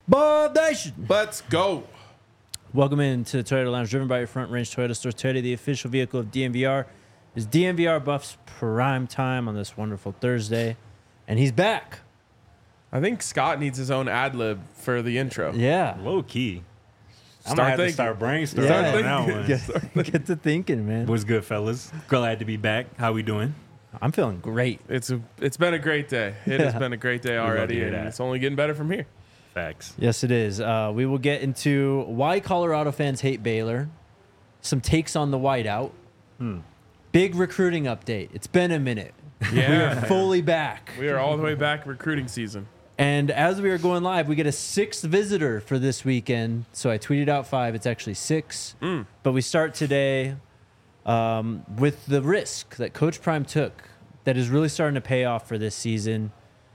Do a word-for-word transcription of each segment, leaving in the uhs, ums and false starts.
Bob Nation. Let's go. Welcome into the Toyota Lounge, driven by your Front Range Toyota Store. Toyota, the official vehicle of D N V R, is D N V R Buff's prime time on this wonderful Thursday, and he's back. I think Scott needs his own ad lib for the intro. Yeah, Low key. I'm Start gonna have thinking. to start brainstorming Yeah. on that one. get, get to thinking, man. What's good, fellas? Glad to be back. How we doing? I'm feeling great. It's a, it's been a great day. It has Yeah. been a great day love to already, hear and that. it's only getting better from here. Facts. Yes, it is. Uh, we will get into why Colorado fans hate Baylor, some takes on the whiteout, Hmm. big recruiting update. It's been a minute. Yeah, Fully back. we are all the way back recruiting season. And as we are going live, we get a sixth visitor for this weekend. So I tweeted out five. It's actually six. Mm. But we start today um, with the risk that Coach Prime took that is really starting to pay off for this season.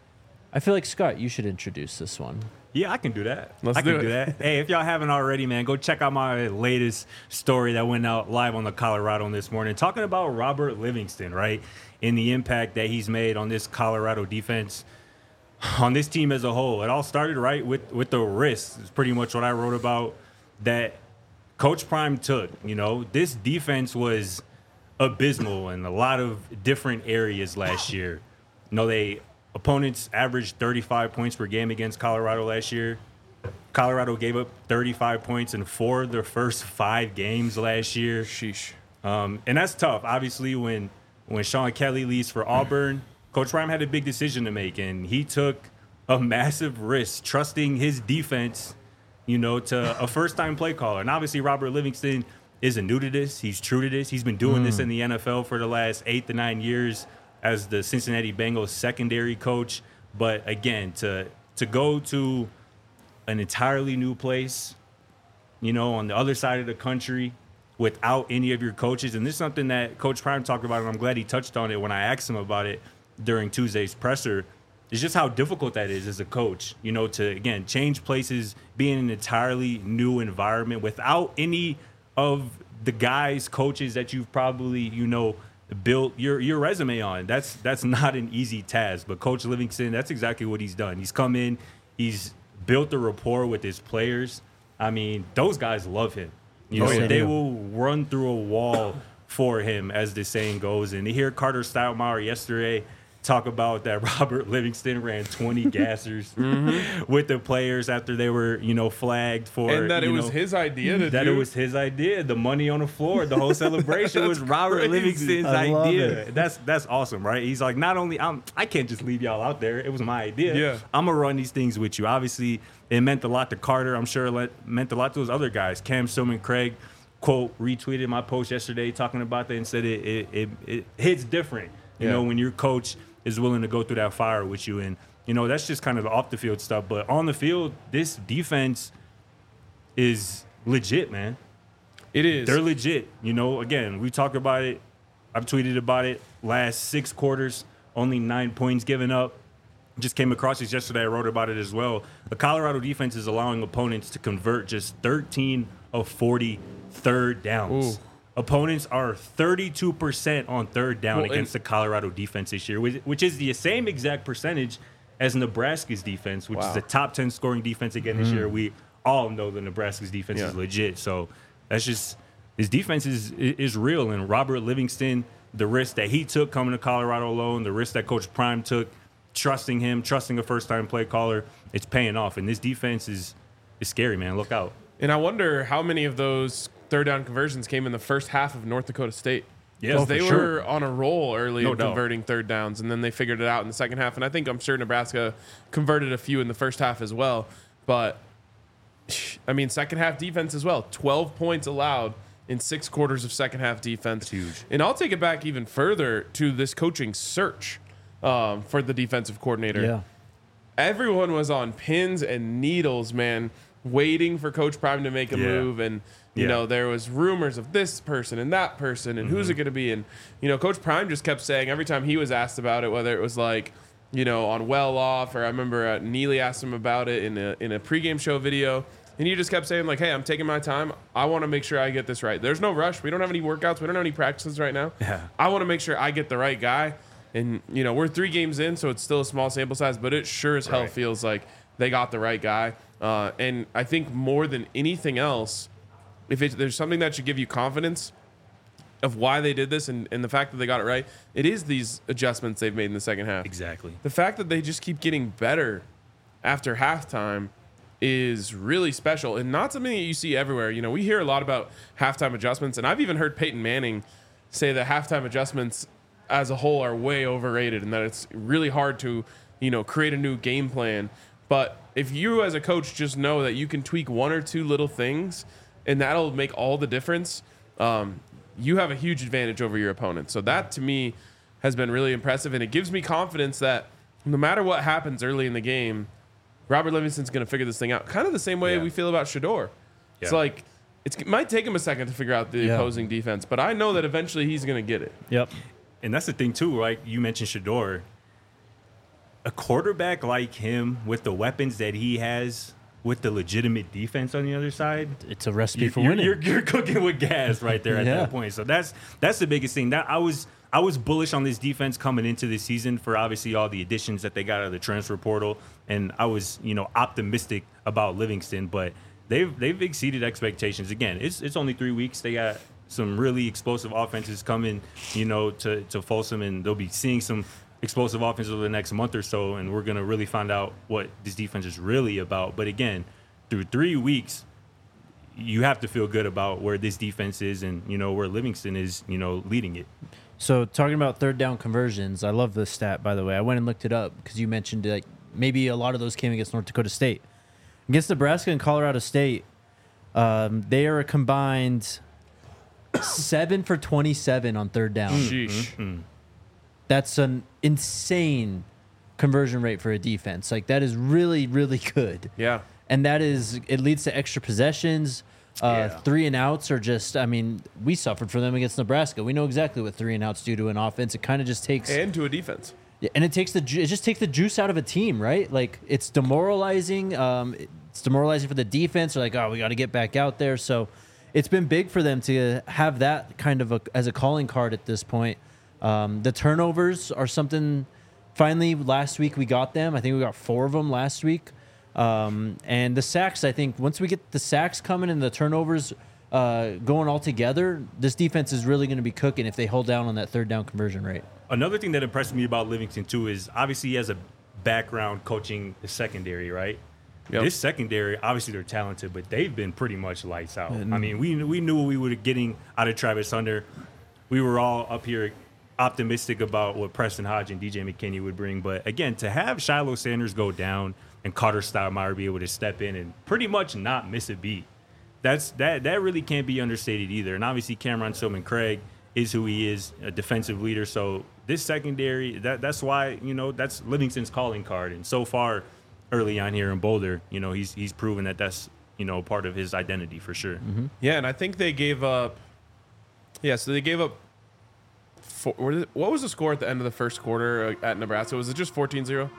I feel like, Scott, you should introduce this one. Yeah, I can do that. Let's I can do do, it. that. Hey, if y'all haven't already, man, go check out my latest story that went out live on the Colorado this morning, talking about Robert Livingston, right, and the impact that he's made on this Colorado defense, on this team as a whole. It all started right with with the risks. It's pretty much what I wrote about that Coach Prime took. You know, this defense was abysmal in a lot of different areas last year. You know, they opponents averaged thirty-five points per game against Colorado last year. Colorado gave up thirty-five points in four of their first five games last year. Sheesh. Um, and that's tough. Obviously, when when Sean Kelly leaves for Auburn, Coach Prime had a big decision to make, and he took a massive risk, trusting his defense, you know, to a first-time play caller. And obviously, Robert Livingston isn't new to this. He's true to this. He's been doing mm. this in the N F L for the last eight to nine years as the Cincinnati Bengals secondary coach. But again, to to go to an entirely new place, you know, on the other side of the country without any of your coaches. And this is something that Coach Prime talked about, and I'm glad he touched on it when I asked him about it during Tuesday's presser. It's just how difficult that is as a coach, you know, to, again, change places, be in an entirely new environment without any of the guys, coaches that you've probably, you know, built your your resume on. That's that's not an easy task. But Coach Livingston, that's exactly what he's done. He's come in, he's built a rapport with his players. I mean, those guys love him. You know, Yes, they they do. will run through a wall for him, as the saying goes. And to hear Carter Stoudemire yesterday talk about that Robert Livingston ran twenty gassers Mm-hmm. with the players after they were, you know, flagged for, And that it you was know, his idea to that do. it was his idea. The money on the floor, the whole celebration was Robert crazy. Livingston's I love idea. it. That's that's awesome, right? He's like, not only I'm, I can't just leave y'all out there. It was my idea. Yeah. I'm gonna run these things with you. Obviously, it meant a lot to Carter. I'm sure it let- meant a lot to those other guys. Cam Stillman Craig, quote, retweeted my post yesterday talking about that and said it it, it, it hits different. You Yeah. know, when your coach is willing to go through that fire with you. And, you know, that's just kind of the off the field stuff. But on the field, this defense is legit, man. It is. They're legit. You know, again, we talked about it. I've tweeted about it. Last six quarters, only nine points given up. Just came across this yesterday. I wrote about it as well. The Colorado defense is allowing opponents to convert just thirteen of forty third downs. Ooh. Opponents are thirty-two percent on third down Well, against and- the Colorado defense this year, which which is the same exact percentage as Nebraska's defense, which Wow. is the top ten scoring defense again this year. We all know that Nebraska's defense Yeah. is legit. So that's just his defense is is real. And Robert Livingston, the risk that he took coming to Colorado alone, the risk that Coach Prime took, trusting him, trusting a first-time play caller, it's paying off. And this defense is is scary, man. Look out. And I wonder how many of those third down conversions came in the first half of North Dakota State. Yeah, Because oh, for they sure. were on a roll early No in doubt. converting third downs, and then they figured it out in the second half. And I think I'm sure Nebraska converted a few in the first half as well. But, I mean, second half defense as well. twelve points allowed in six quarters of second half defense. That's huge. And I'll take it back even further to this coaching search um, for the defensive coordinator. Yeah. Everyone was on pins and needles, man, waiting for Coach Prime to make a Yeah. move. And, you Yeah. know, there was rumors of this person and that person and who's it going to be. And, you know, Coach Prime just kept saying every time he was asked about it, whether it was like, you know, on Well Off, or I remember uh, Neely asked him about it in a, in a pregame show video. And he just kept saying, like, hey, I'm taking my time. I want to make sure I get this right. There's no rush. We don't have any workouts. We don't have any practices right now. Yeah. I want to make sure I get the right guy. And, you know, we're three games in, so it's still a small sample size, but it sure as hell Right. feels like they got the right guy. Uh, and I think more than anything else, if it, there's something that should give you confidence of why they did this and, and the fact that they got it right, it is these adjustments they've made in the second half. Exactly. The fact that they just keep getting better after halftime is really special and not something that you see everywhere. You know, we hear a lot about halftime adjustments, and I've even heard Peyton Manning say that halftime adjustments as a whole are way overrated and that it's really hard to, you know, create a new game plan. But if you as a coach just know that you can tweak one or two little things and that'll make all the difference, um, you have a huge advantage over your opponent. So that to me has been really impressive, and it gives me confidence that no matter what happens early in the game, Robert Livingston's going to figure this thing out. Kind of the same way Yeah. we feel about Shedeur. Yeah. It's like it's, it might take him a second to figure out the Yeah. opposing defense, but I know that eventually he's going to get it. Yep. And that's the thing too, right? You mentioned Shedeur. A quarterback like him with the weapons that he has, with the legitimate defense on the other side, It's a recipe you're, for you're, winning. you're, you're cooking with gas right there at Yeah. that point. So that's that's the biggest thing. That I was I was bullish on this defense coming into this season for obviously all the additions that they got out of the transfer portal, and I was you know optimistic about Livingston, but they've they've exceeded expectations. Again, it's it's only three weeks. They got some really explosive offenses coming, you know, to to Folsom, and they'll be seeing some explosive offense over the next month or so, and we're gonna really find out what this defense is really about. But again, through three weeks, you have to feel good about where this defense is, and you know where Livingston is, you know, leading it. So talking about third down conversions, I love this stat, by the way. I went and looked it up because you mentioned like maybe a lot of those came against North Dakota State. Against Nebraska and Colorado State, um, they are a combined seven for twenty-seven on third down. Sheesh. That's an insane conversion rate for a defense. Like that is really, really good. Yeah. And that is, it leads to extra possessions. Uh, Yeah. Three and outs are just, I mean, we suffered for them against Nebraska. We know exactly what three and outs do to an offense. It kind of just takes, And to a defense. yeah, and it takes the, ju- it just takes the juice out of a team, right? Like it's demoralizing. Um, it's demoralizing for the defense. They're like, oh, we got to get back out there. So it's been big for them to have that kind of a, as a calling card at this point. Um, the turnovers are something. Finally, last week we got them. I think we got four of them last week. Um, and the sacks, I think, once we get the sacks coming and the turnovers uh, going all together, this defense is really going to be cooking if they hold down on that third down conversion rate. Another thing that impressed me about Livingston too is obviously he has a background coaching the secondary, right? Yep. This secondary, obviously they're talented, but they've been pretty much lights out. I mean, we we knew what we were getting out of Travis Hunter. We were all up here optimistic about what Preston Hodge and D J McKinney would bring, but again, to have Shiloh Sanders go down and Carter Stoudemire be able to step in and pretty much not miss a beat, that's that that really can't be understated either. And obviously Cameron Silman Craig is who he is, a defensive leader. So this secondary, that that's why, you know, that's Livingston's calling card. And so far early on here in Boulder, you know, he's he's proven that that's, you know, part of his identity for sure. Mm-hmm. Yeah, and I think they gave up. Yeah, so they gave up. Four, what is it- what was the score at the end of the first quarter uh, at Nebraska? Was it just fourteen zero?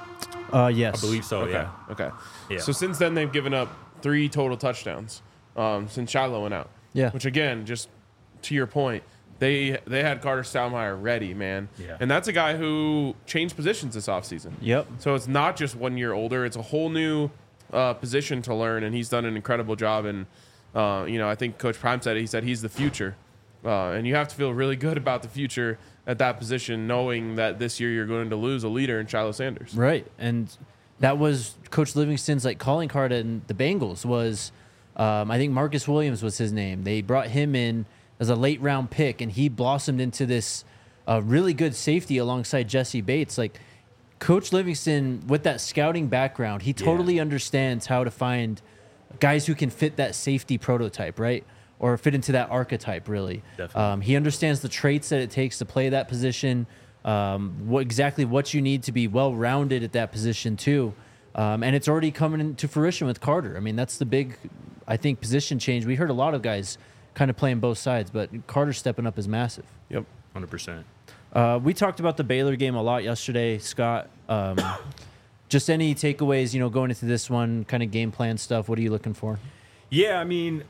Uh, yes. I believe so, Okay. yeah. Okay. Yeah. So since then they've given up three total touchdowns um, since Shiloh went out. Yeah. Which again, just to your point, they they had Carter Stoudemire ready, man. Yeah. And that's a guy who changed positions this offseason. Yep. So it's not just one year older; it's a whole new uh, position to learn, and he's done an incredible job. And uh, you know, I think Coach Prime said it. He said he's the future, uh, and you have to feel really good about the future at that position, knowing that this year you're going to lose a leader in Shiloh Sanders. Right. And that was Coach Livingston's like calling card in the Bengals was, um, I think Marcus Williams was his name. They brought him in as a late round pick, and he blossomed into this uh, really good safety alongside Jesse Bates. Like Coach Livingston, with that scouting background, he totally understands how to find guys who can fit that safety prototype, right? Or fit into that archetype, really. Definitely. Um, he understands the traits that it takes to play that position, um, what exactly what you need to be well-rounded at that position, too. Um, and it's already coming into fruition with Carter. I mean, that's the big, I think, position change. We heard a lot of guys kind of playing both sides, but Carter stepping up is massive. Yep. one hundred percent. Uh, we talked about the Baylor game a lot yesterday, Scott. Um, just any takeaways, you know, going into this one, kind of game plan stuff. What are you looking for? Yeah, I mean,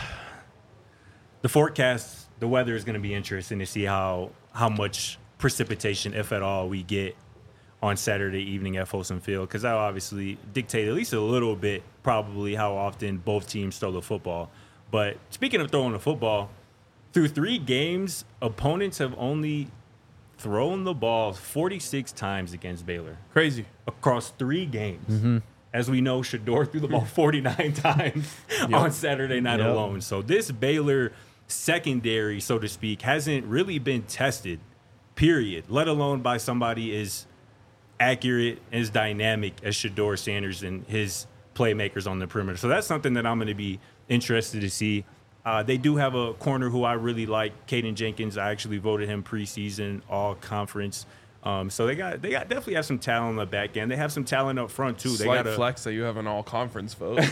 the forecast, the weather is going to be interesting to see how how much precipitation, if at all, we get on Saturday evening at Folsom Field, because that will obviously dictate at least a little bit probably how often both teams throw the football. But speaking of throwing the football, through three games, opponents have only thrown the ball forty-six times against Baylor. Crazy. Across three games. Mm-hmm. As we know, Shedeur threw the ball forty-nine times Yep. on Saturday night Yep. alone. So this Baylor secondary, so to speak, hasn't really been tested, period, let alone by somebody as accurate, as dynamic as Shedeur Sanders and his playmakers on the perimeter. So that's something that I'm going to be interested to see. Uh, they do have a corner who I really like, Caden Jenkins. I actually voted him preseason all conference. Um, so they got they got definitely have some talent on the back end. They have some talent up front too. They Slight got a, flex that you have an all conference vote.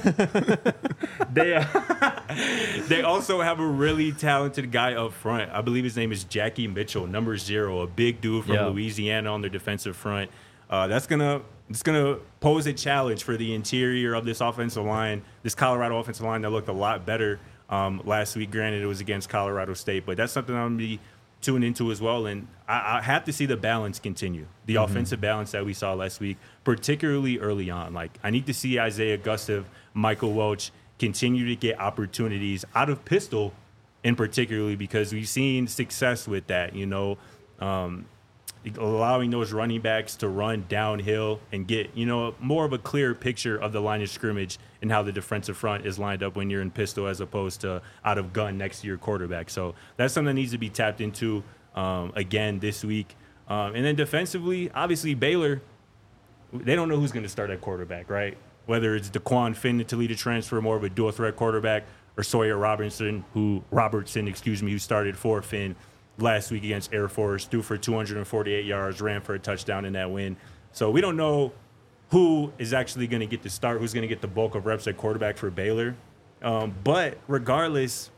they uh, they also have a really talented guy up front. I believe his name is Jackie Mitchell, number zero, a big dude from Yeah. Louisiana on their defensive front. Uh, that's gonna it's gonna pose a challenge for the interior of this offensive line, this Colorado offensive line that looked a lot better um, last week. Granted, it was against Colorado State, but that's something I'm gonna be tune into as well. And I, I have to see the balance continue, the mm-hmm. offensive balance that we saw last week, particularly early on. Like, I need to see Isaiah Gustav, Michael Welch continue to get opportunities out of pistol, in particularly because we've seen success with that, you know, um, allowing those running backs to run downhill and get, you know, more of a clear picture of the line of scrimmage and how the defensive front is lined up when you're in pistol as opposed to out of gun next to your quarterback. So that's something that needs to be tapped into um, again this week. Um, and then defensively, obviously Baylor, they don't know who's going to start at quarterback, right? Whether it's DeQuan Finn to lead a transfer, more of a dual threat quarterback, or Sawyer Robertson, who Robertson, excuse me, who started for Finn last week against Air Force, threw for two hundred forty-eight yards, ran for a touchdown in that win. So we don't know who is actually going to get the start, who's going to get the bulk of reps at quarterback for Baylor. Um, but regardless,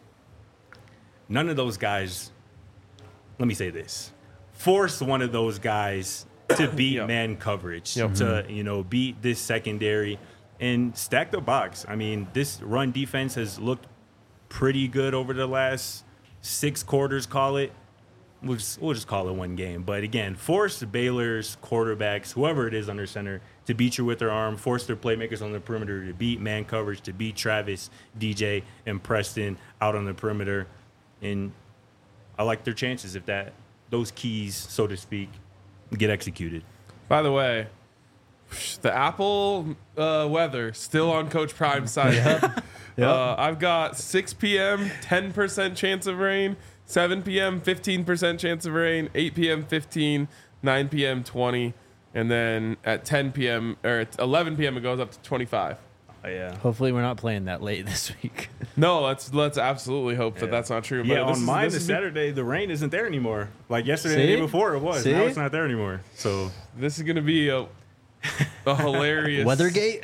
none of those guys, let me say this, force one of those guys to beat Yep. man coverage, Yep. to, you know, beat this secondary and stack the box. I mean, this run defense has looked pretty good over the last six quarters, call it. We'll just, we'll just call it one game. But again, force Baylor's quarterbacks, whoever it is under center, to beat you with their arm, force their playmakers on the perimeter to beat man coverage, to beat Travis, D J, and Preston out on the perimeter. And I like their chances if that those keys, so to speak, get executed. By the way, the Apple uh, weather still on Coach Prime's side. Yep. Uh, I've got six p.m., ten percent chance of rain, seven p.m., fifteen percent chance of rain, eight p.m., fifteen, nine p.m., twenty, and then at ten p.m. or at eleven p.m. it goes up to twenty-five. Oh, yeah. Hopefully we're not playing that late this week. No, let's let's absolutely hope that Yeah. that's not true. Yeah, but this on is- mine this this is- Saturday, the rain isn't there anymore. Like yesterday, and the See? day before it was. See? Now it's not there anymore. So This is going to be a, a hilarious Weathergate?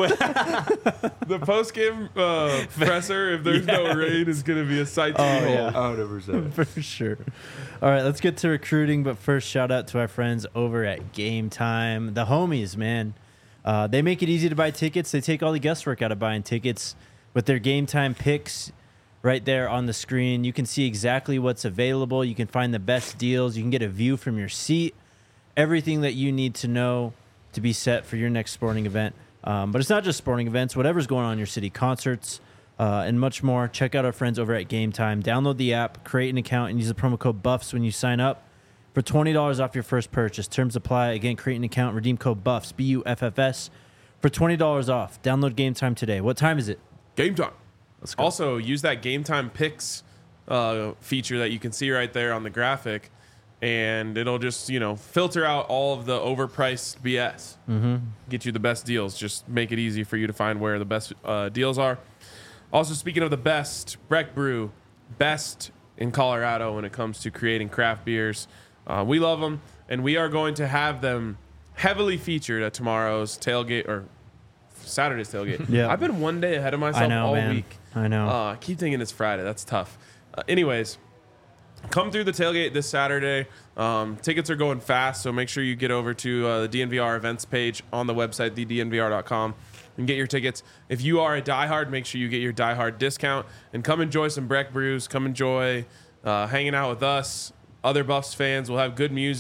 The post game uh, presser, if there's no Yes. rain, is going to be a sight to Oh, behold. yeah. one hundred percent. For sure. All right, let's get to recruiting. But first, shout out to our friends over at Game Time. The homies, man. Uh, they make it easy to buy tickets. They take all the guesswork out of buying tickets with their Game Time picks right there on the screen. You can see exactly what's available. You can find the best deals. You can get a view from your seat. Everything that you need to know to be set for your next sporting event. Um, but it's not just sporting events. Whatever's going on in your city, concerts, uh, and much more. Check out our friends over at Game Time. Download the app, create an account, and use the promo code BUFFS when you sign up for twenty dollars off your first purchase. Terms apply. Again, create an account, redeem code BUFFS, B U F F S, for twenty dollars off. Download Game Time today. What time is it? Game time. Let's go. Also, use that Game Time picks uh, feature that you can see right there on the graphic, and it'll just, you know, filter out all of the overpriced B S. Mm-hmm. Get you the best deals. Just make it easy for you to find where the best uh, deals are. Also, speaking of the best, Breck Brew, best in Colorado when it comes to creating craft beers. Uh, we love them, and we are going to have them heavily featured at tomorrow's tailgate or Saturday's tailgate. Yeah. I've been one day ahead of myself I know, all man. week. I know. Uh, I keep thinking it's Friday. That's tough. Uh, anyways, come through the tailgate this Saturday. Um, tickets are going fast, so make sure you get over to uh, the D N V R events page on the website, the d n v r dot com, and get your tickets. If you are a diehard, make sure you get your diehard discount and come enjoy some Breck Brews. Come enjoy uh, hanging out with us, other Buffs fans. We'll have good music,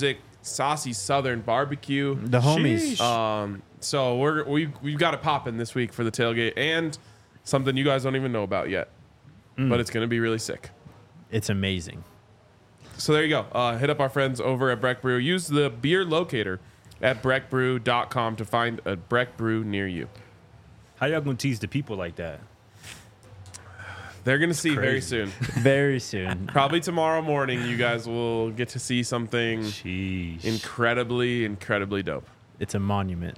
Saucy Southern Barbecue. The homies. Sheesh. Um, so we're we we've got it popping this week for the tailgate and something you guys don't even know about yet, but it's gonna be really sick. It's amazing. So there you go. Uh, hit up our friends over at Breck Brew. Use the beer locator at breck brew dot com to find a Breck Brew near you. How y'all gonna tease the people like that? They're gonna see very crazy. soon. Very soon. Probably tomorrow morning, you guys will get to see something Sheesh. incredibly, incredibly dope. It's a monument.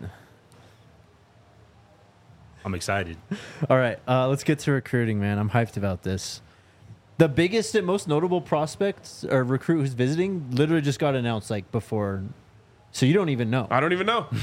I'm excited. All right, uh, let's get to recruiting, man. I'm hyped about this. The biggest and most notable prospect or recruit who's visiting literally just got announced like before, so you don't even know. I don't even know.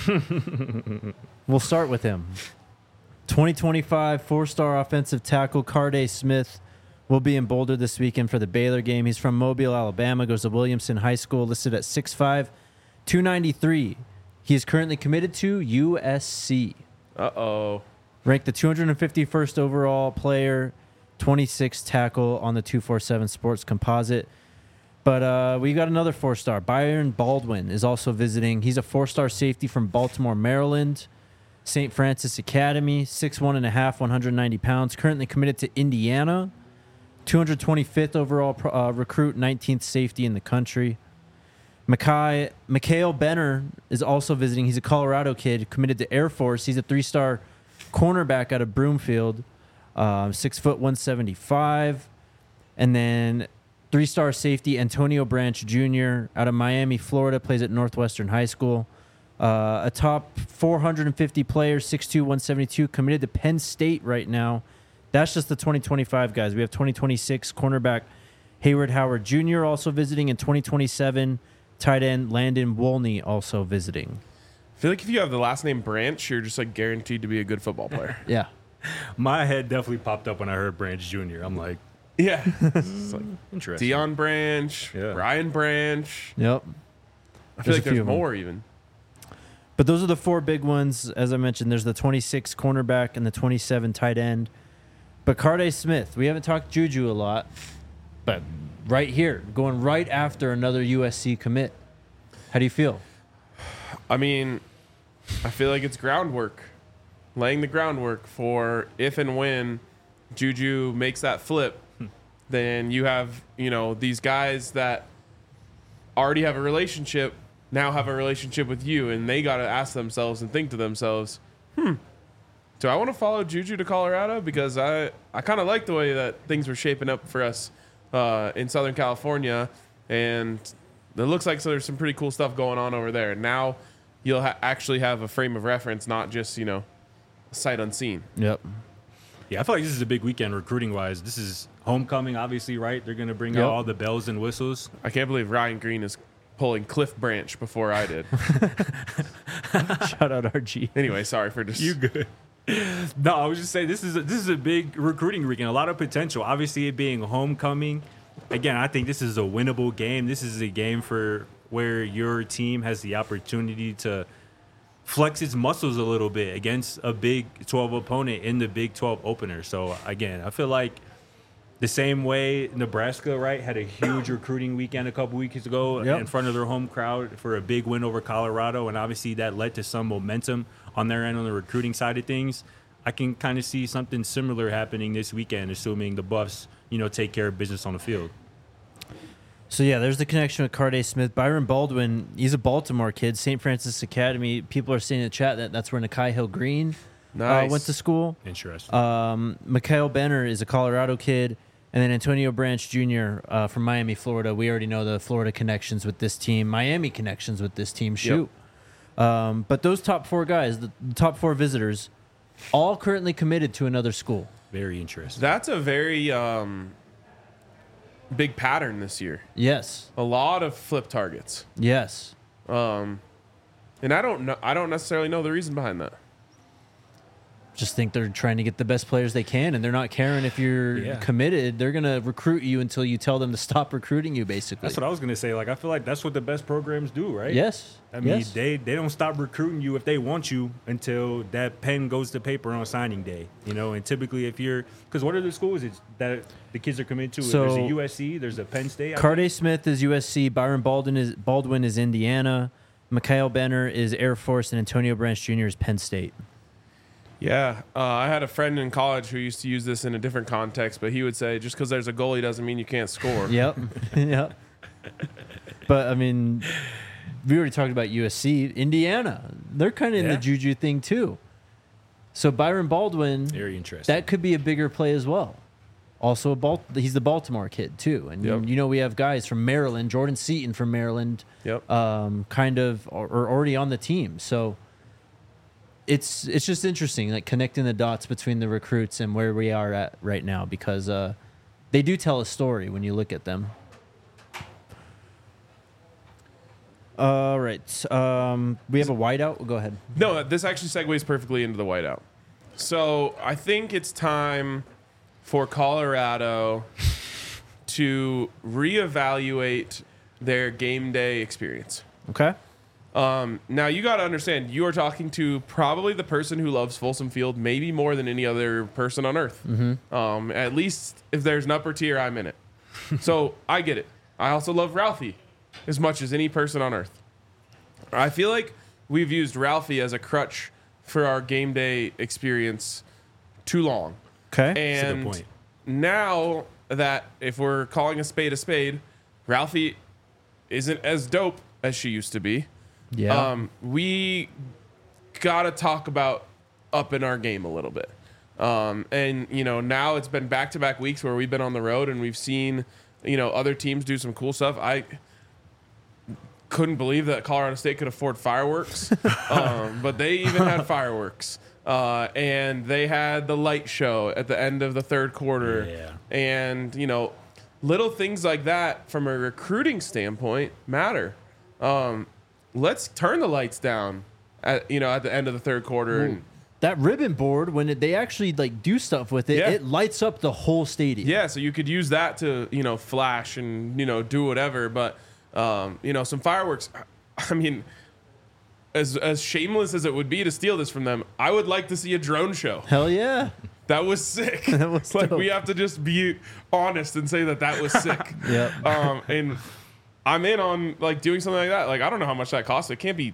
We'll start with him. twenty twenty-five four-star offensive tackle Carday Smith will be in Boulder this weekend for the Baylor game. He's from Mobile, Alabama, goes to Williamson High School, listed at six five, two ninety-three. He is currently committed to U S C. Uh-oh. Ranked the two hundred fifty-first overall player, twenty-sixth tackle on the two forty-seven Sports Composite. But uh, we got another four-star. Byron Baldwin is also visiting. He's a four-star safety from Baltimore, Maryland. Saint Francis Academy, six one and a half, one hundred ninety pounds. Currently committed to Indiana. two hundred twenty-fifth overall pro- uh, recruit, nineteenth safety in the country. Makai, Mikhail Benner is also visiting. He's a Colorado kid, committed to Air Force. He's a three-star cornerback out of Broomfield, um, six foot one seventy-five. And then three-star safety Antonio Branch Junior out of Miami, Florida, plays at Northwestern High School. Uh, a top four hundred fifty player, six two, one seventy-two, committed to Penn State right now. That's just the twenty twenty-five guys. We have twenty twenty-six cornerback Hayward Howard Junior also visiting, and twenty twenty-seven tight end Landon Wolney also visiting. I feel like if you have the last name Branch, you're just like guaranteed to be a good football player. Yeah. My head definitely popped up when I heard Branch Junior I'm like, Yeah. It's like interesting. Deion Branch, Yeah. Brian Branch. Yep. I feel There's like a few there's of them. more even. But those are the four big ones. As I mentioned, there's the twenty-six cornerback and the twenty-seven tight end. But Carday Smith, we haven't talked Juju a lot, but right here, going right after another U S C commit. How do you feel? I mean, I feel like it's groundwork, laying the groundwork for if and when Juju makes that flip, then you have, you know, these guys that already have a relationship now have a relationship with you, and they got to ask themselves and think to themselves, hmm, do I want to follow Juju to Colorado? Because I, I kind of like the way that things were shaping up for us uh, in Southern California, and it looks like so there's some pretty cool stuff going on over there. Now you'll ha- actually have a frame of reference, not just, you know, sight unseen. Yep. Yeah, I feel like this is a big weekend recruiting wise. This is homecoming, obviously, right? They're going to bring Yep. out all the bells and whistles. I can't believe Ryan Green is pulling Cliff Branch before I did. Shout out R G. Anyway, sorry for just... You good? No, I was just saying this is a, this is a big recruiting weekend. A lot of potential. Obviously, it being homecoming. Again, I think this is a winnable game. This is a game for where your team has the opportunity to flex its muscles a little bit against a Big twelve opponent in the Big twelve opener. So again, I feel like the same way Nebraska, right, had a huge recruiting weekend a couple weeks ago Yep. in front of their home crowd for a big win over Colorado, and obviously that led to some momentum on their end on the recruiting side of things. I can kind of see something similar happening this weekend, assuming the Buffs, you know, take care of business on the field. So, yeah, there's the connection with Carday Smith. Byron Baldwin, he's a Baltimore kid, Saint Francis Academy. People are saying in the chat that that's where Nakai Hill Green uh, Nice. went to school. Interesting. Um, Mikhail Benner is a Colorado kid. And then Antonio Branch Junior Uh, from Miami, Florida. We already know the Florida connections with this team. Miami connections with this team. Shoot. Um, but those top four guys, the, the top four visitors, all currently committed to another school. Very interesting. That's a very um, big pattern this year. Yes. A lot of flip targets. Yes. Um, and I don't know. I don't necessarily know the reason behind that. just think they're trying to get the best players they can, and they're not caring if you're Yeah. committed. They're going to recruit you until you tell them to stop recruiting you, basically. That's what I was gonna say. Like, I feel like that's what the best programs do, right? Yes. I mean, yes. they they don't stop recruiting you if they want you until that pen goes to paper on signing day. You know, and typically if you're, because what are the schools it's, that the kids are coming to? So- there's a U S C, there's a Penn State. I Carday Smith is U S C. Byron Baldwin is Baldwin is Indiana. Mikhail Benner is Air Force, and Antonio Branch Junior is Penn State. Yeah, uh, I had a friend in college who used to use this in a different context, but he would say just because there's a goalie doesn't mean you can't score. Yep. Yep. But I mean, we already talked about U S C. Indiana, they're kind of in Yeah. the juju thing too. So Byron Baldwin, Very interesting. that could be a bigger play as well. Also, a Bal- he's the Baltimore kid too, and Yep. you know we have guys from Maryland, Jordan Seaton from Maryland, Yep. um, kind of are, are already on the team. So it's it's just interesting, like connecting the dots between the recruits and where we are at right now, because uh, they do tell a story when you look at them. All right, um, we have a whiteout. Go ahead. No, this actually segues perfectly into the whiteout. So I think it's time for Colorado to reevaluate their game day experience. Okay. Um, now you got to understand, you are talking to probably the person who loves Folsom Field, maybe more than any other person on earth. Mm-hmm. Um, at least if there's an upper tier, I'm in it. So I get it. I also love Ralphie as much as any person on earth. I feel like we've used Ralphie as a crutch for our game day experience too long. Okay. That's a good And point. now that if we're calling a spade a spade, Ralphie isn't as dope as she used to be. Yeah. Um, we got to talk about upping our game a little bit. Um, and, you know, now it's been back-to-back weeks where we've been on the road and we've seen, you know, other teams do some cool stuff. I couldn't believe that Colorado State could afford fireworks, um, but they even had fireworks. Uh, and they had the light show at the end of the third quarter. Yeah. And, you know, little things like that from a recruiting standpoint matter. Um, let's turn the lights down at, you know, at the end of the third quarter. And, that ribbon board, when it, they actually like do stuff with it, Yeah. it lights up the whole stadium. yeah, so you could use that to, you know, flash and, you know, do whatever. But, um, you know, some fireworks, I mean, as as shameless as it would be to steal this from them, I would like to see a drone show. Hell yeah. That was sick. That was like, dope. we have to just be honest and say that that was sick. Yep. Um, and I'm in on, like, doing something like that. Like, I don't know how much that costs. It can't be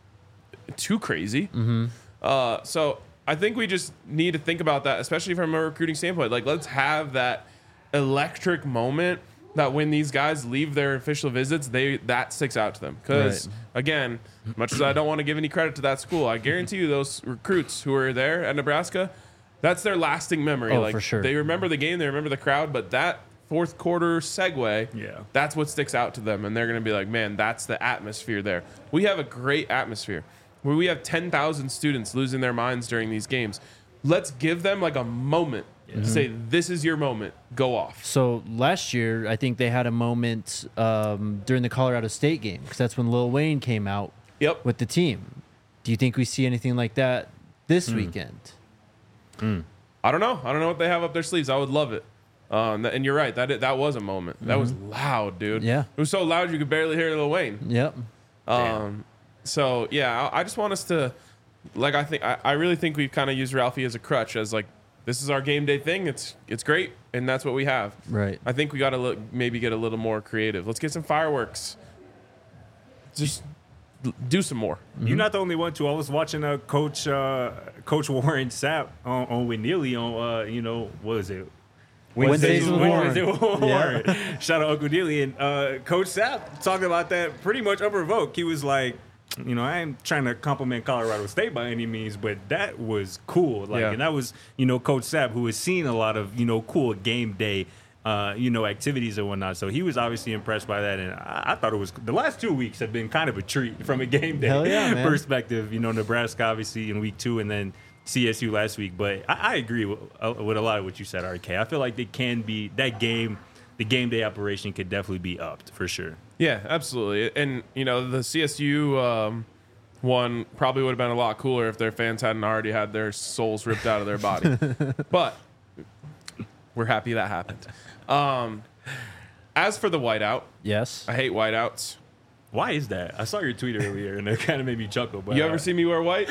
too crazy. Mm-hmm. Uh, so I think we just need to think about that, especially from a recruiting standpoint. Like, let's have that electric moment that when these guys leave their official visits, they that sticks out to them. Because, Right. again, much as I don't want to give any credit to that school, I guarantee you those recruits who are there at Nebraska, that's their lasting memory. Oh, like, for sure. They remember the game, they remember the crowd, but that fourth quarter segue, Yeah. that's what sticks out to them. And they're going to be like, man, that's the atmosphere there. We have a great atmosphere where we have ten thousand students losing their minds during these games. Let's give them like a moment to say, this is your moment. Go off. So last year, I think they had a moment um, during the Colorado State game, because that's when Lil Wayne came out Yep. with the team. Do you think we see anything like that this weekend? I don't know. I don't know what they have up their sleeves. I would love it. Um, and you're right. That that was a moment. That was loud, dude. Yeah. It was so loud you could barely hear Lil Wayne. Yep. Um, so yeah, I, I just want us to, like, I think I, I really think we've kind of used Ralphie as a crutch, as like, this is our game day thing. It's it's great, and that's what we have. Right. I think we got to look maybe get a little more creative. Let's get some fireworks. Just l- do some more. You're not the only one too. I was watching uh, Coach uh, Coach Warren Sapp on, on with Neely on uh, you know what is it Wednesdays with Wednesdays Warren. with Warren. Shout out Uncle Neely and uh, Coach Sapp talking about that pretty much unprovoked. He was like, you know, I ain't trying to compliment Colorado State by any means, but that was cool. Like, Yeah. and that was, you know, Coach Sapp, who has seen a lot of, you know, cool game day, uh, you know, activities and whatnot. So he was obviously impressed by that. And I, I thought it was, the last two weeks have been kind of a treat from a game day Hell yeah, man. perspective. You know, Nebraska obviously in week two and then C S U last week. But I, I agree with, uh, with a lot of what you said, R K. I feel like it can be, that game, the game day operation could definitely be upped for sure. Yeah, absolutely. And you know, the C S U um, one probably would have been a lot cooler if their fans hadn't already had their souls ripped out of their body. But we're happy that happened. Um, as for the whiteout, Yes. I hate whiteouts. Why is that? I saw your tweet earlier, and it kind of made me chuckle. But You ever uh, see me wear white?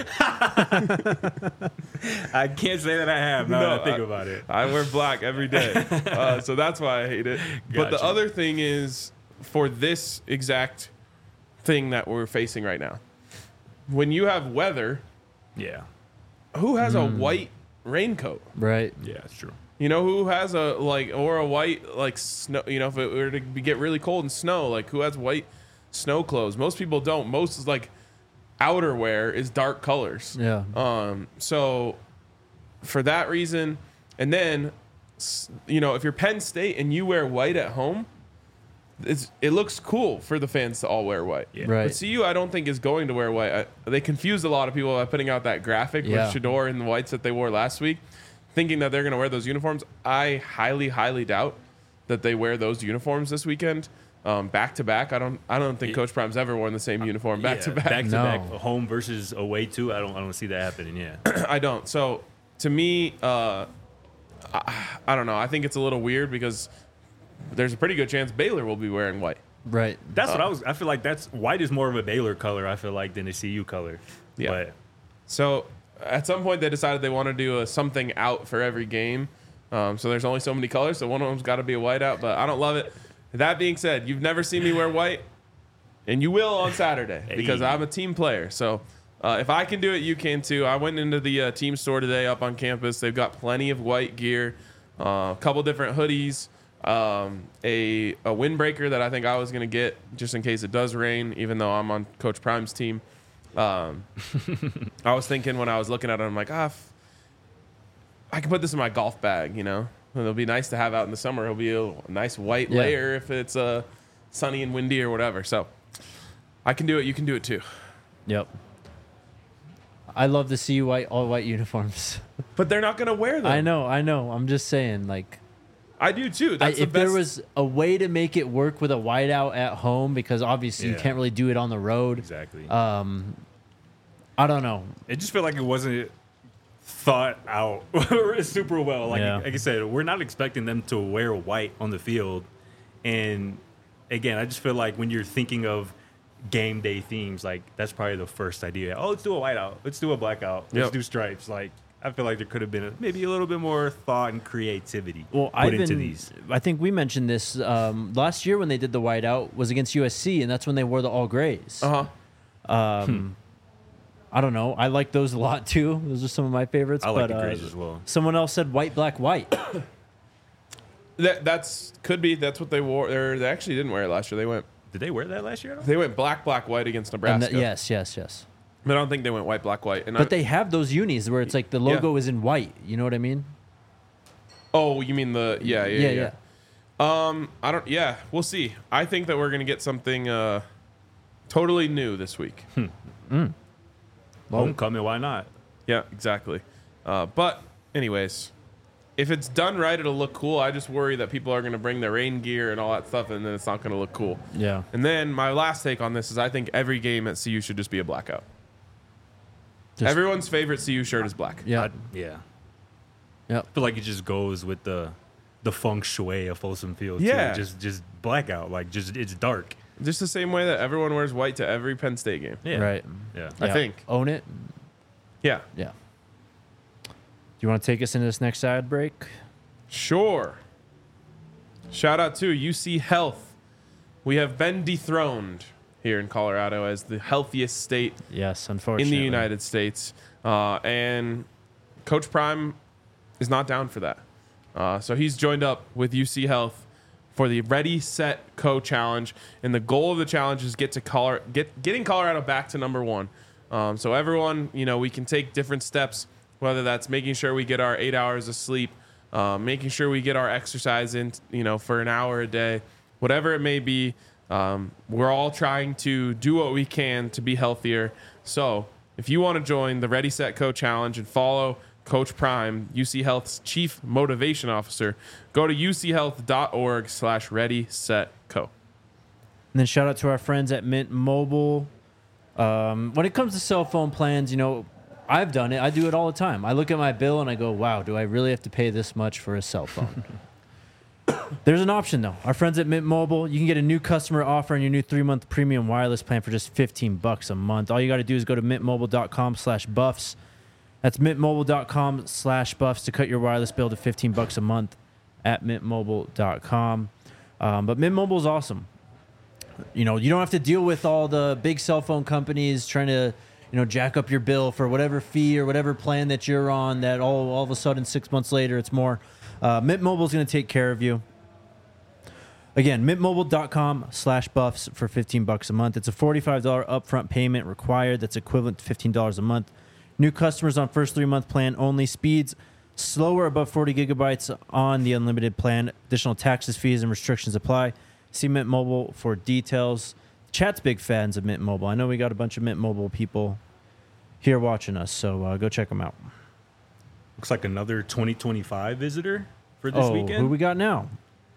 I can't say that I have. Now No, that I think I- about it. I wear black every day. Uh, so that's why I hate it. But the Gotcha. other thing is for this exact thing that we're facing right now. When you have weather, Yeah, who has Hmm. a white raincoat? Right. yeah, it's true. You know, who has a like or a white like snow, you know, if it were to be- get really cold and snow, like who has white snow clothes? Most people don't. Most is like outerwear is dark colors. Yeah. Um, so for that reason, and then s- you know, if you're Penn State and you wear white at home, it's, it looks cool for the fans to all wear white. Yeah. Right. But C U, I don't think is going to wear white. I, they confused a lot of people by putting out that graphic Yeah. with Shador in the whites that they wore last week, thinking that they're going to wear those uniforms. I highly, highly doubt that they wear those uniforms this weekend. Um, back to back, I don't. I don't think Yeah. Coach Prime's ever worn the same uniform back Yeah, to back. back to No. back, home versus away too. I don't, I don't see that happening. Yeah, I don't. So to me, uh, I, I don't know. I think it's a little weird because there's a pretty good chance Baylor will be wearing white. Right. that's Uh, what I was. I feel like that's white is more of a Baylor color. I feel like than a C U color. Yeah. But So at some point they decided they want to do a something out for every game. Um, so there's only so many colors. So one of them's got to be a white out. But I don't love it. That being said, you've never seen me wear white, and you will on Saturday because Hey. I'm a team player. So uh, if I can do it, you can too. I went into the uh, team store today up on campus. They've got plenty of white gear, uh, a couple different hoodies, um, a a windbreaker that I think I was gonna get just in case it does rain, even though I'm on Coach Prime's team. Um, I was thinking when I was looking at it, I'm like, ah, f- I can put this in my golf bag, you know. It'll be nice to have out in the summer. It'll be a nice white Yeah. layer if it's uh, sunny and windy or whatever. So I can do it. You can do it too. Yep. I love to see white all white uniforms. But they're not gonna wear them. I know, I know. I'm just saying, like, I do too. I, That's the if best. there was a way to make it work with a whiteout at home, because obviously you Yeah. can't really do it on the road. exactly. Um, I don't know. It just felt like it wasn't thought out super well. Like, Yeah. like I said, we're not expecting them to wear white on the field. And again, I just feel like when you're thinking of game day themes, like that's probably the first idea. Oh, let's do a whiteout. Let's do a blackout. Let's Yep. do stripes. Like, I feel like there could have been a, maybe a little bit more thought and creativity Well, put I've into been. these. I think we mentioned this um, last year when they did the whiteout was against U S C, and that's when they wore the all grays. Uh huh. Um, I don't know. I like those a lot too. Those are some of my favorites. I like but, the uh, grays as well. Someone else said white, black, white. That that's could be. That's what they wore. Or they actually didn't wear it last year. They went. Did they wear that last year at all? They went black, black, white against And Nebraska. that- yes, yes, yes. But I don't think they went white, black, white. And I, But they have those unis where it's like the logo is in white. You know what I mean? Oh, you mean the yeah, yeah, Yeah, yeah. yeah. Um, I don't. Yeah, we'll see. I think that we're gonna get something uh, totally new this week. Homecoming, why not? Yeah, exactly. Uh, but anyways, if it's done right, it'll look cool. I just worry that people are gonna bring their rain gear and all that stuff, and then it's not gonna look cool. Yeah. And then my last take on this is I think every game at C U should just be a blackout. Just- Everyone's favorite C U shirt is black. Yeah. I- yeah. Yep. I feel like it just goes with the the feng shui of Folsom Field. Yeah. Too. Just just blackout. Like just it's dark. Just the same way that everyone wears white to every Penn State game. Yeah. Right. Yeah. I Yeah. think. Own it. Yeah. Yeah. Do you want to take us into this next side break? Sure. Shout out to U C Health. We have been dethroned here in Colorado as the healthiest state Yes, in unfortunately. the United States. Uh, and Coach Prime is not down for that. Uh, so he's joined up with U C Health for the Ready, Set, Co challenge. And the goal of the challenge is get to Colorado, get getting Colorado back to number one. Um, so everyone, you know, we can take different steps, whether that's making sure we get our eight hours of sleep, uh, making sure we get our exercise in, you know, for an hour a day, whatever it may be. Um, we're all trying to do what we can to be healthier. So if you want to join the Ready, Set, Co challenge and follow Coach Prime, U C Health's Chief Motivation Officer, go to uchealth.org slash ready, set, co. And then shout out to our friends at Mint Mobile. Um, when it comes to cell phone plans, you know, I've done it. I do it all the time. I look at my bill and I go, wow, do I really have to pay this much for a cell phone? There's an option, though. Our friends at Mint Mobile, you can get a new customer offer on your new three-month premium wireless plan for just fifteen bucks a month. All you got to do is go to mintmobile.com slash buffs. That's mintmobile.com slash buffs to cut your wireless bill to fifteen bucks a month at mintmobile dot com. Um, but Mint Mobile is awesome. You know, you don't have to deal with all the big cell phone companies trying to, you know, jack up your bill for whatever fee or whatever plan that you're on that all, all of a sudden six months later it's more. Uh, Mint Mobile is going to take care of you. Again, mintmobile.com slash buffs for fifteen bucks a month. It's a forty-five dollars upfront payment required. That's equivalent to fifteen dollars a month. New customers on first three-month plan only. Speeds slower above forty gigabytes on the unlimited plan. Additional taxes, fees, and restrictions apply. See Mint Mobile for details. Chat's big fans of Mint Mobile. I know we got a bunch of Mint Mobile people here watching us, so uh, go check them out. Looks like another twenty twenty-five visitor for this oh, weekend. who we got now?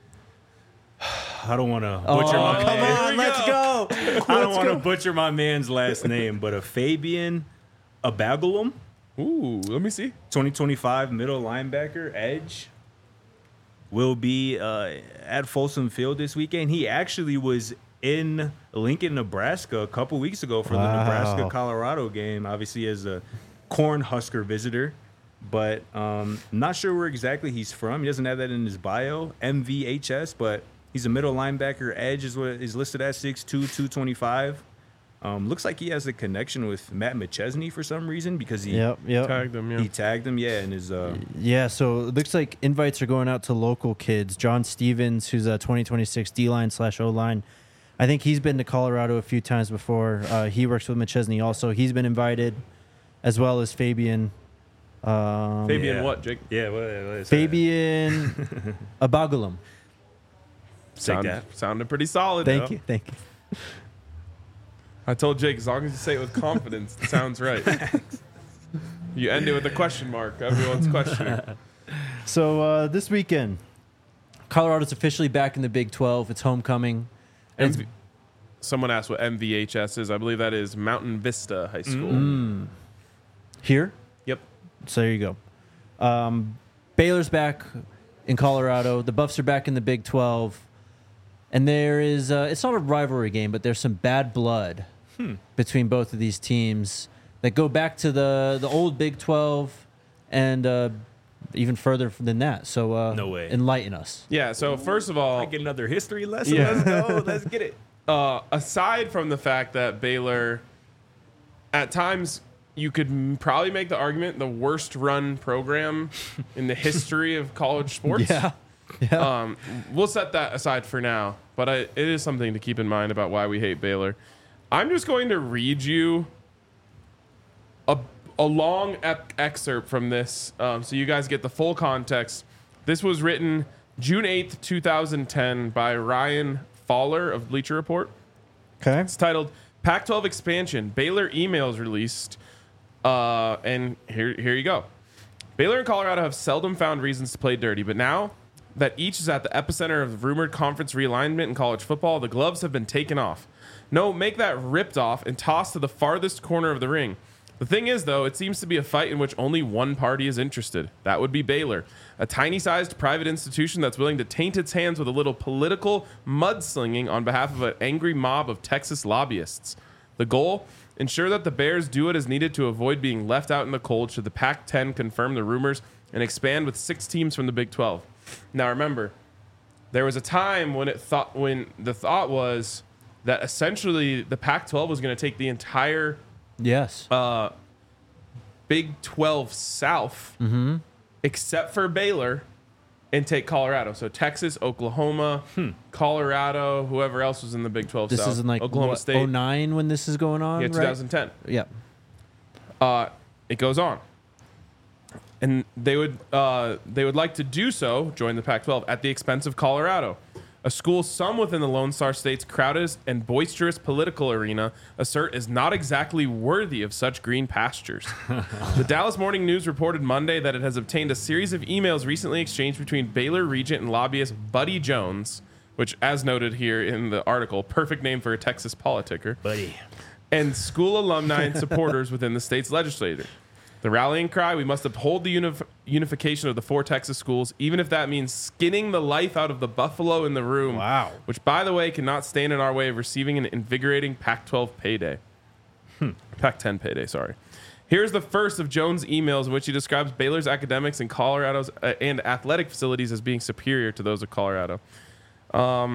I don't want to butcher oh, my come man. on, let's go. I don't want to butcher my man's last name, but a Fabian Abagulum, Ooh, let me see. twenty twenty-five middle linebacker, edge, will be uh, at Folsom Field this weekend. He actually was in Lincoln, Nebraska a couple weeks ago for Wow. the Nebraska-Colorado game, obviously as a Cornhusker visitor. But um, not sure where exactly he's from. He doesn't have that in his bio, M V H S, but he's a middle linebacker. Edge is what is listed at six two, two twenty-five. Um, looks like he has a connection with Matt McChesney for some reason because he Yep, yep. Tagged him, yeah. he tagged him, yeah, in his uh, Yeah, so it looks like invites are going out to local kids. John Stevens, who's a twenty twenty-six D-line slash O-line. I think he's been to Colorado a few times before. Uh, he works with McChesney also. He's been invited, as well as Fabian. Um, Fabian yeah. what, Jake? yeah, what, what is Fabian Abagulum. Sound, that. sounded pretty solid. Thank though. you, thank you. I told Jake, as long as you say it with confidence, it sounds right. You end it with a question mark. Everyone's questioning. So uh, this weekend, Colorado's officially back in the Big twelve. It's homecoming. And M V- Someone asked what M V H S is. I believe that is Mountain Vista High School. Mm. Here, Yep. so there you go. Um, Baylor's back in Colorado. The Buffs are back in the Big twelve. And there is, uh, it's not a rivalry game, but there's some bad blood Hmm. between both of these teams that go back to the, the old Big twelve and uh, even further than that. So uh, No way. enlighten us. Yeah, so first of all, I get another history lesson. Yeah. Let's go. Let's get it. uh, aside from the fact that Baylor, at times, you could m- probably make the argument the worst run program in the history of college sports. Yeah. Yeah. Um, we'll set that aside for now, but I, it is something to keep in mind about why we hate Baylor. I'm just going to read you a, a long ep- excerpt from this um, so you guys get the full context. This was written June eighth, twenty ten by Ryan Fowler of Bleacher Report. Okay. It's titled Pac twelve Expansion. Baylor emails released. Uh, and here, here you go. Baylor and Colorado have seldom found reasons to play dirty, but now that each is at the epicenter of rumored conference realignment in college football, the gloves have been taken off. No, make that ripped off and tossed to the farthest corner of the ring. The thing is, though, it seems to be a fight in which only one party is interested. That would be Baylor, a tiny-sized private institution that's willing to taint its hands with a little political mudslinging on behalf of an angry mob of Texas lobbyists. The goal? Ensure that the Bears do what is needed to avoid being left out in the cold should the Pac ten confirm the rumors and expand with six teams from the Big twelve. Now remember, there was a time when it thought when the thought was that essentially the Pac twelve was going to take the entire Yes. uh, Big twelve South, Mm-hmm. except for Baylor, and take Colorado. So Texas, Oklahoma, Colorado, whoever else was in the Big twelve This South. is in like Oklahoma what, State. oh nine when this is going on, Yeah, right? twenty ten. Yeah. Uh, it goes on, and they would uh, they would like to do so, join the Pac twelve at the expense of Colorado, a school some within the Lone Star State's crowded and boisterous political arena assert is not exactly worthy of such green pastures. The Dallas Morning News reported Monday that it has obtained a series of emails recently exchanged between Baylor regent and lobbyist Buddy Jones, which, as noted here in the article, perfect name for a Texas politicker, Buddy. and school alumni and supporters within the state's legislature. The rallying cry, we must uphold the unif- unification of the four Texas schools, even if that means skinning the life out of the buffalo in the room. Wow. Which, by the way, cannot stand in our way of receiving an invigorating Pac twelve payday. Hmm. Pac ten payday, sorry. Here's the first of Jones' emails in which he describes Baylor's academics and Colorado's uh, and athletic facilities as being superior to those of Colorado. Um,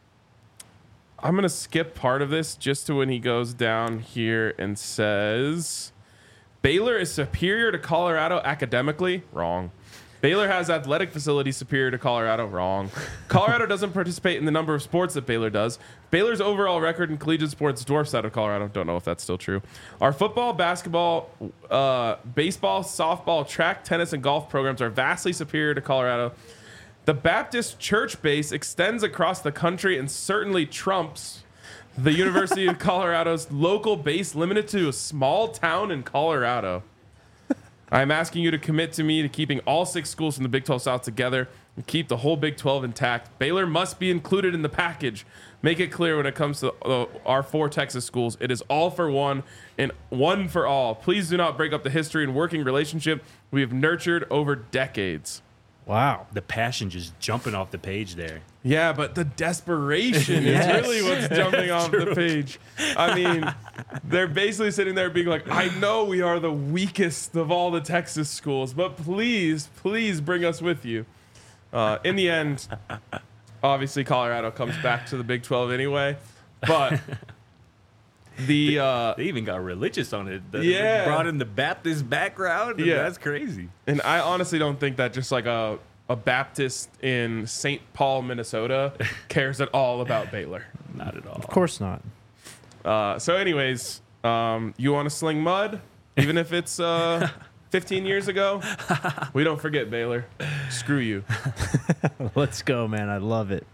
I'm going to skip part of this just to when he goes down here and says... Baylor is superior to Colorado academically. Wrong. Baylor has athletic facilities superior to Colorado. Wrong. Colorado doesn't participate in the number of sports that Baylor does. Baylor's overall record in collegiate sports dwarfs that of Colorado. Don't know if that's still true. Our football, basketball, uh, baseball, softball, track, tennis, and golf programs are vastly superior to Colorado. The Baptist church base extends across the country and certainly trumps the University of Colorado's local base, limited to a small town in Colorado. I'm asking you to commit to me to keeping all six schools from the Big twelve South together and keep the whole Big twelve intact. Baylor must be included in the package. Make it clear when it comes to uh, our four Texas schools. It is all for one and one for all. Please do not break up the history and working relationship we have nurtured over decades. Wow. The passion just jumping off the page there. Yeah, but the desperation Yes. is really what's jumping off the page. I mean, they're basically sitting there being like, I know we are the weakest of all the Texas schools, but please, please bring us with you. Uh, in the end, obviously Colorado comes back to the Big twelve anyway, but the... Uh, They even got religious on it. The, Yeah. They brought in the Baptist background. and Yeah. That's crazy. and I honestly don't think that just like a, a Baptist in Saint Paul, Minnesota cares at all about Baylor. Not at all. Of course not. Uh, so, anyways, um, you want to sling mud, even if it's uh, fifteen years ago? We don't forget, Baylor. Screw you. Let's go, man. I love it.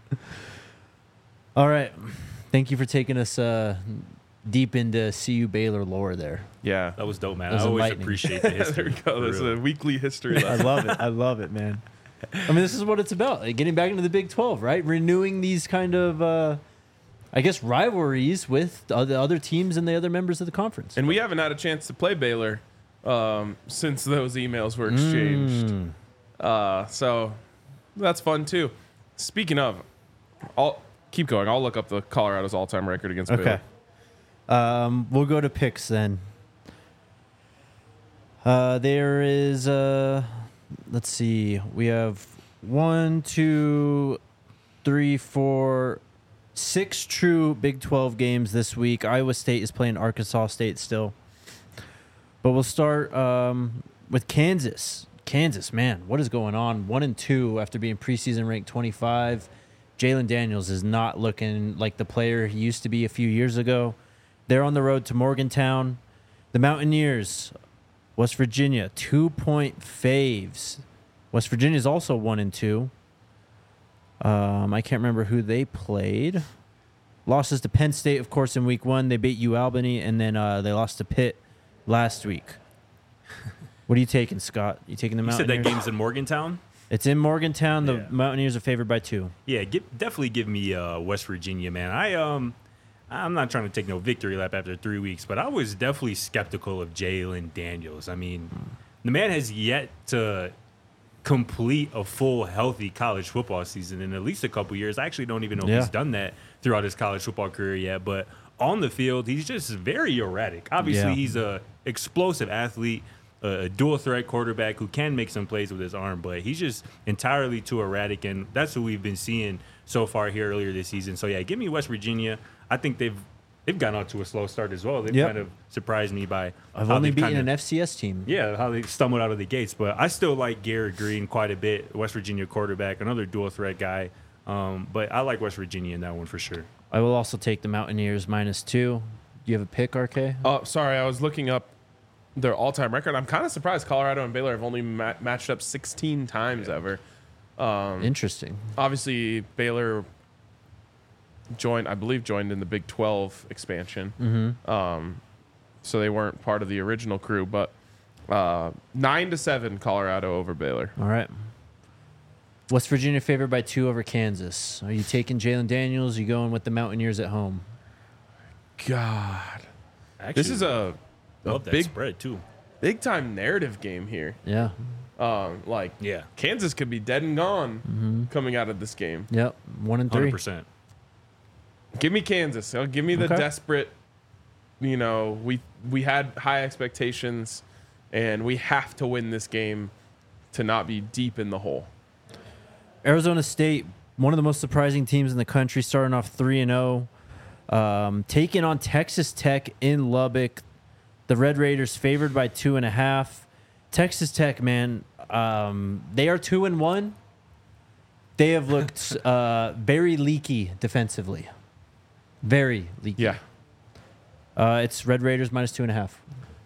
All right. Thank you for taking us uh, deep into C U Baylor lore there. Yeah. That was dope, man. That was I always enlightening. appreciate the There history. we go. for That's real. a weekly history I lesson. love it. I love it, man. I mean, this is what it's about. Like, getting back into the Big twelve, right? Renewing these kind of, uh, I guess, rivalries with the other, other teams and the other members of the conference. And we haven't had a chance to play Baylor um, since those emails were exchanged. Mm. Uh, so that's fun, too. Speaking of, I'll keep going. I'll look up the Colorado's all-time record against Okay. Baylor. Um, we'll go to picks then. Uh, there is, uh, let's see, we have one, two, three, four, six true Big twelve games this week. Iowa State is playing Arkansas State still. But we'll start um, with Kansas. Kansas, man, what is going on? One and two after being preseason ranked twenty-five. Jalen Daniels is not looking like the player he used to be a few years ago. They're on the road to Morgantown. The Mountaineers, West Virginia, two-point faves. West Virginia is also one and two. Um, I can't remember who they played. Losses to Penn State, of course, in week one. They beat UAlbany, and then uh, they lost to Pitt last week. What are you taking, Scott? You taking the You said Mountaineers? that game's in Morgantown? It's in Morgantown. The Yeah. Mountaineers are favored by two. Yeah, give, definitely give me uh, West Virginia, man. I um, I'm not trying to take no victory lap after three weeks, but I was definitely skeptical of Jalen Daniels. I mean, the man has yet to complete a full, healthy college football season in at least a couple years. I actually don't even know Yeah. if he's done that throughout his college football career yet. But on the field, he's just very erratic. Obviously, Yeah. he's a explosive athlete, a dual threat quarterback who can make some plays with his arm, but he's just entirely too erratic, and that's what we've been seeing so far here earlier this season. So yeah, give me West Virginia. I think they've they've gotten out to a slow start as well. They've Yep. kind of surprised me by I've how only they've beaten kinda- an F C S team. yeah, how they stumbled out of the gates. But I still like Garrett Green quite a bit, West Virginia quarterback, another dual threat guy. Um, but I like West Virginia in that one for sure. I will also take the Mountaineers minus two. Do you have a pick, R K? Oh, sorry. I was looking up their all-time record. I'm kind of surprised Colorado and Baylor have only ma- matched up sixteen times ever. Um, Interesting. obviously, Baylor joined, I believe, joined in the Big twelve expansion. Mm-hmm. Um, so they weren't part of the original crew, but uh, nine to seven, Colorado over Baylor. All right. West Virginia favored by two over Kansas. Are you taking Jalen Daniels? Are you going with the Mountaineers at home? God, Actually, This is a, a love that big, spread too. big time narrative game here. Yeah. Um, like Yeah, Kansas could be dead and gone Mm-hmm. coming out of this game. Yep. One and hundred three. percent. Give me Kansas. Uh, Give me the Okay. desperate. You know, we we had high expectations, and we have to win this game to not be deep in the hole. Arizona State, one of the most surprising teams in the country, starting off three and zero, um, taking on Texas Tech in Lubbock. The Red Raiders favored by two and a half. Texas Tech, man, um, they are two and one. They have looked uh, very leaky defensively, very leaky. Yeah. Uh, it's Red Raiders minus two and a half.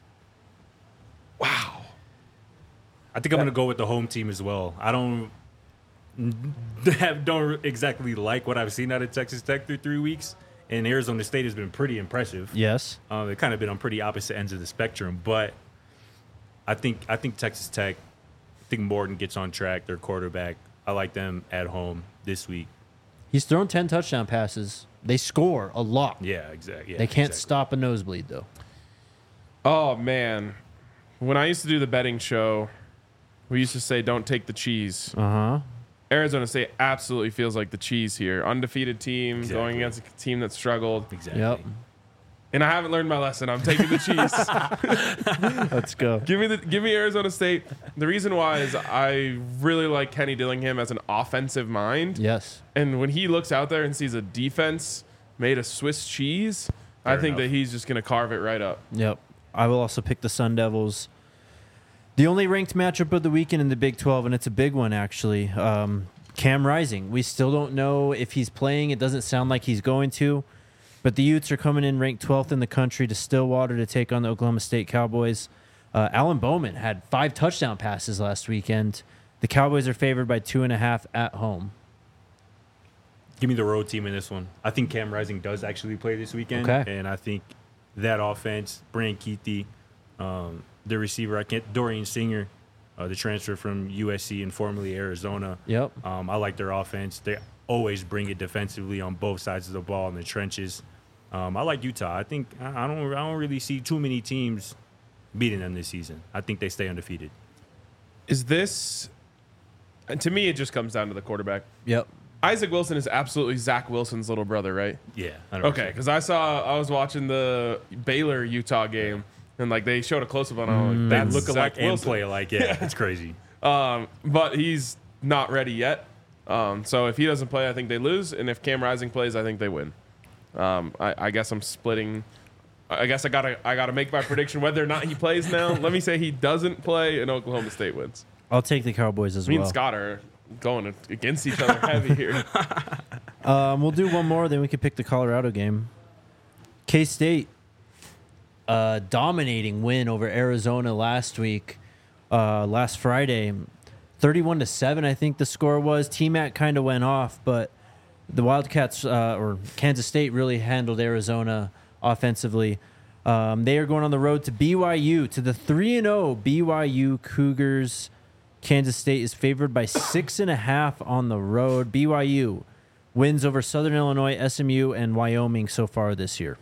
Wow. I think I'm gonna go with the home team as well. I don't have, don't exactly like what I've seen out of Texas Tech through three weeks, and Arizona State has been pretty impressive. Yes. Um, they've kind of been on pretty opposite ends of the spectrum, but I think I think Texas Tech. I think Morton gets on track. Their quarterback. I like them at home this week. He's thrown ten touchdown passes. They score a lot. Yeah, exactly. Yeah, They can't exactly. stop a nosebleed, though. Oh man, when I used to do the betting show, we used to say, "Don't take the cheese." Uh huh. Arizona State absolutely feels like the cheese here. Undefeated team Exactly. going against a team that struggled. Exactly. Yep. And I haven't learned my lesson. I'm taking the cheese. Let's go. give me the give me Arizona State. The reason why is I really like Kenny Dillingham as an offensive mind. Yes. And when he looks out there and sees a defense made of Swiss cheese, I Fair think enough. that he's just going to carve it right up. Yep. I will also pick the Sun Devils. The only ranked matchup of the weekend in the Big twelve, and it's a big one, actually. Um, Cam Rising. We still don't know if he's playing. It doesn't sound like he's going to. But the Utes are coming in ranked twelfth in the country to Stillwater to take on the Oklahoma State Cowboys. Uh, Alan Bowman had five touchdown passes last weekend. The Cowboys are favored by two and a half at home. Give me the road team in this one. I think Cam Rising does actually play this weekend. Okay. And I think that offense, Brand Keithy, um, the receiver, I can't, Dorian Singer, uh, the transfer from U S C and formerly Arizona. Yep. Um, I like their offense. They always bring it defensively on both sides of the ball in the trenches. Um, I like Utah. I think I I don't. I don't really see too many teams beating them this season. I think they stay undefeated. Is this, and to me, it just comes down to the quarterback. Yep. Isaac Wilson is absolutely Zach Wilson's little brother, right? Yeah. one hundred percent. Okay, because I saw, I was watching the Baylor Utah game, and like they showed a close up on him. They Like, that's look Zach alike and Wilson. play alike. Yeah, it's crazy. Um, but he's not ready yet. Um, so if he doesn't play, I think they lose, and if Cam Rising plays, I think they win. Um, I, I guess I'm splitting. I guess I gotta I gotta make my prediction whether or not he plays now. Let me say he doesn't play, and Oklahoma State wins. I'll take the Cowboys as Me well. and Scott are going against each other heavy here. Um, we'll do one more, then we can pick the Colorado game. K-State, uh, dominating win over Arizona last week, uh, last Friday, thirty-one to seven. I think the score was. T-Mac kind of went off, but the Wildcats uh, or Kansas State really handled Arizona offensively. Um, they are going on the road to B Y U, to the three and zero B Y U Cougars. Kansas State is favored by six and a half on the road. B Y U wins over Southern Illinois, S M U, and Wyoming so far this year.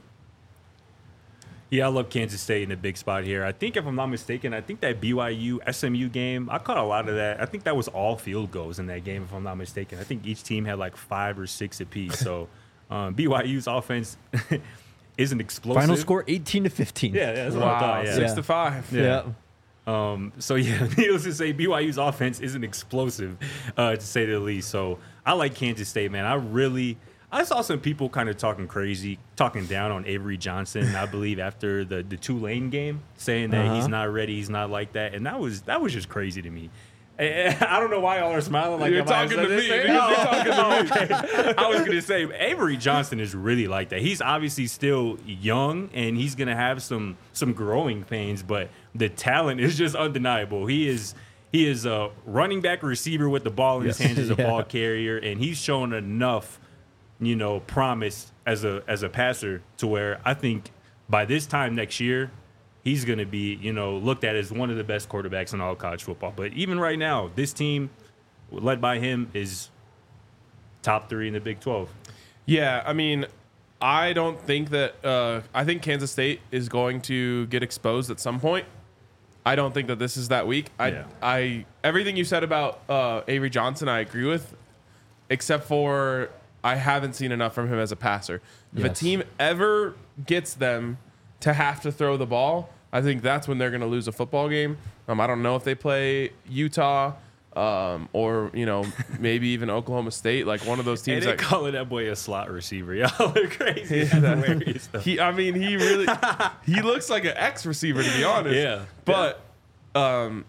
Yeah, I love Kansas State in a big spot here. I think, if I'm not mistaken, I think that B Y U S M U game, I caught a lot of that. I think that was all field goals in that game, if I'm not mistaken. I think each team had like five or six apiece. So um, B Y U's offense isn't explosive. Final score eighteen to fifteen. Yeah, yeah, that's what I Wow, thought. Yeah. six Yeah. to five. Yeah. Um, so yeah, needless to say, B Y U's offense isn't explosive, uh, to say the least. So I like Kansas State, man. I really, I saw some people kind of talking crazy, talking down on Avery Johnson. I believe after the the Tulane game, saying that Uh-huh. he's not ready, he's not like that, and that was that was just crazy to me. And I don't know why y'all are smiling like You're I might have talking to said me. this. You're Oh, talking to me. okay. I was gonna say Avery Johnson is really like that. He's obviously still young and he's gonna have some some growing pains, but the talent is just undeniable. He is he is a running back receiver with the ball in his Yes. hands as a Yeah. ball carrier, and he's shown enough, you know, promise as a as a passer to where I think by this time next year, he's going to be, you know, looked at as one of the best quarterbacks in all college football. But even right now, this team, led by him, is top three in the Big twelve. Yeah, I mean, I don't think that. Uh, I think Kansas State is going to get exposed at some point. I don't think that this is that week. I, Yeah. I, everything you said about uh, Avery Johnson, I agree with, except for I haven't seen enough from him as a passer. If a Yes. team ever gets them to have to throw the ball, I think that's when they're going to lose a football game. Um, I don't know if they play Utah um, or you know maybe even Oklahoma State, like one of those And teams. they that calling that boy a slot receiver. Y'all are crazy. Yeah, That's that- hilarious, though. he, I mean, he really he looks like an X receiver, to be honest. Yeah. But um,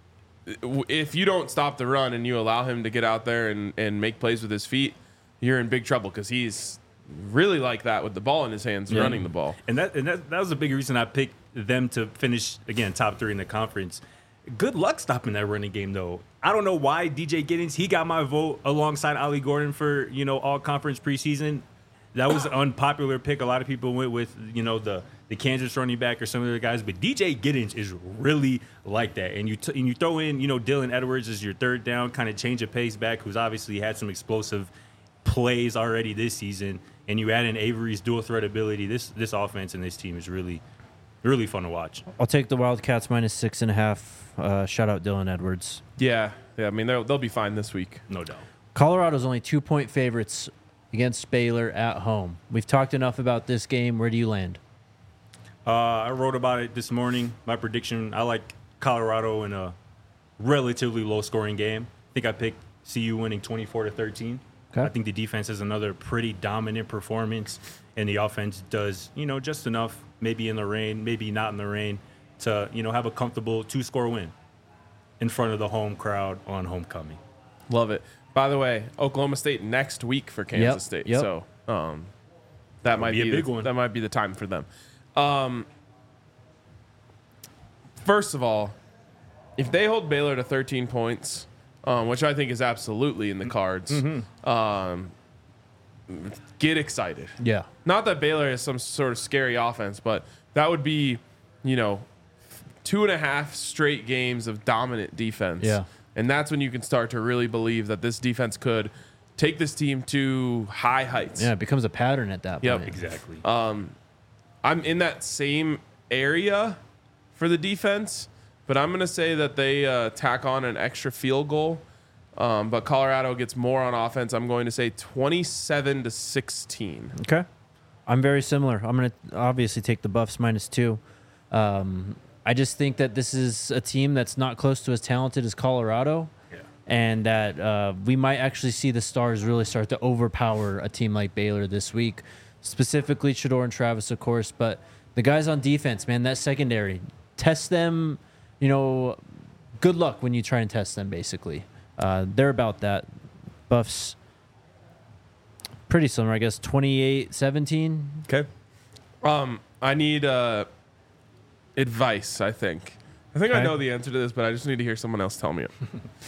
w- if you don't stop the run and you allow him to get out there and, and make plays with his feet, you're in big trouble because he's really like that with the ball in his hands, Yeah. running the ball. And that and that, that was a big reason I picked them to finish again top three in the conference. Good luck stopping that running game though. I don't know why D J Giddens, he got my vote alongside Ollie Gordon for, you know, all conference preseason. That was an unpopular pick. A lot of people went with, you know, the the Kansas running back or some of the guys, but D J Giddens is really like that. And you t- and you throw in, you know, Dylan Edwards as your third down, kind of change of pace back, who's obviously had some explosive plays already this season, and you add in Avery's dual threat ability. This this offense and this team is really, really fun to watch. I'll take the Wildcats minus six and a half. Uh, shout out Dylan Edwards. Yeah, yeah. I mean, they'll they'll be fine this week. No doubt. Colorado's only two point favorites against Baylor at home. We've talked enough about this game. Where do you land? Uh, I wrote about it this morning. My prediction, I like Colorado in a relatively low-scoring game. I think I picked C U winning twenty-four to thirteen. Okay. I think the defense has another pretty dominant performance, and the offense does, you know, just enough, maybe in the rain, maybe not in the rain, to, you know, have a comfortable two-score win in front of the home crowd on homecoming. Love it. By the way, Oklahoma State next week for Kansas Yep, State. yep. So um, that might be a be, big the, one. That might be the time for them. Um, first of all, if they hold Baylor to thirteen points, um, which I think is absolutely in the cards, Mm-hmm. um, get excited. Yeah. Not that Baylor is some sort of scary offense, but that would be, you know, two and a half straight games of dominant defense. Yeah. And that's when you can start to really believe that this defense could take this team to high heights. Yeah, it becomes a pattern at that Yep. point. Exactly. I'm in that same area for the defense, but I'm going to say that they uh, tack on an extra field goal. Um, but Colorado gets more on offense. I'm going to say twenty-seven to sixteen. Okay. I'm very similar. I'm going to obviously take the Buffs minus two. Um, I just think that this is a team that's not close to as talented as Colorado, Yeah. and that uh, we might actually see the Stars really start to overpower a team like Baylor this week, specifically Shedeur and Travis, of course. But the guys on defense, man, that secondary, test them. You know, good luck when you try and test them, basically. Uh, they're about that. Buffs, pretty similar, I guess, twenty-eight seventeen. Okay. Um, I need uh, advice, I think. I think I Okay. know the answer to this, but I just need to hear someone else tell me it.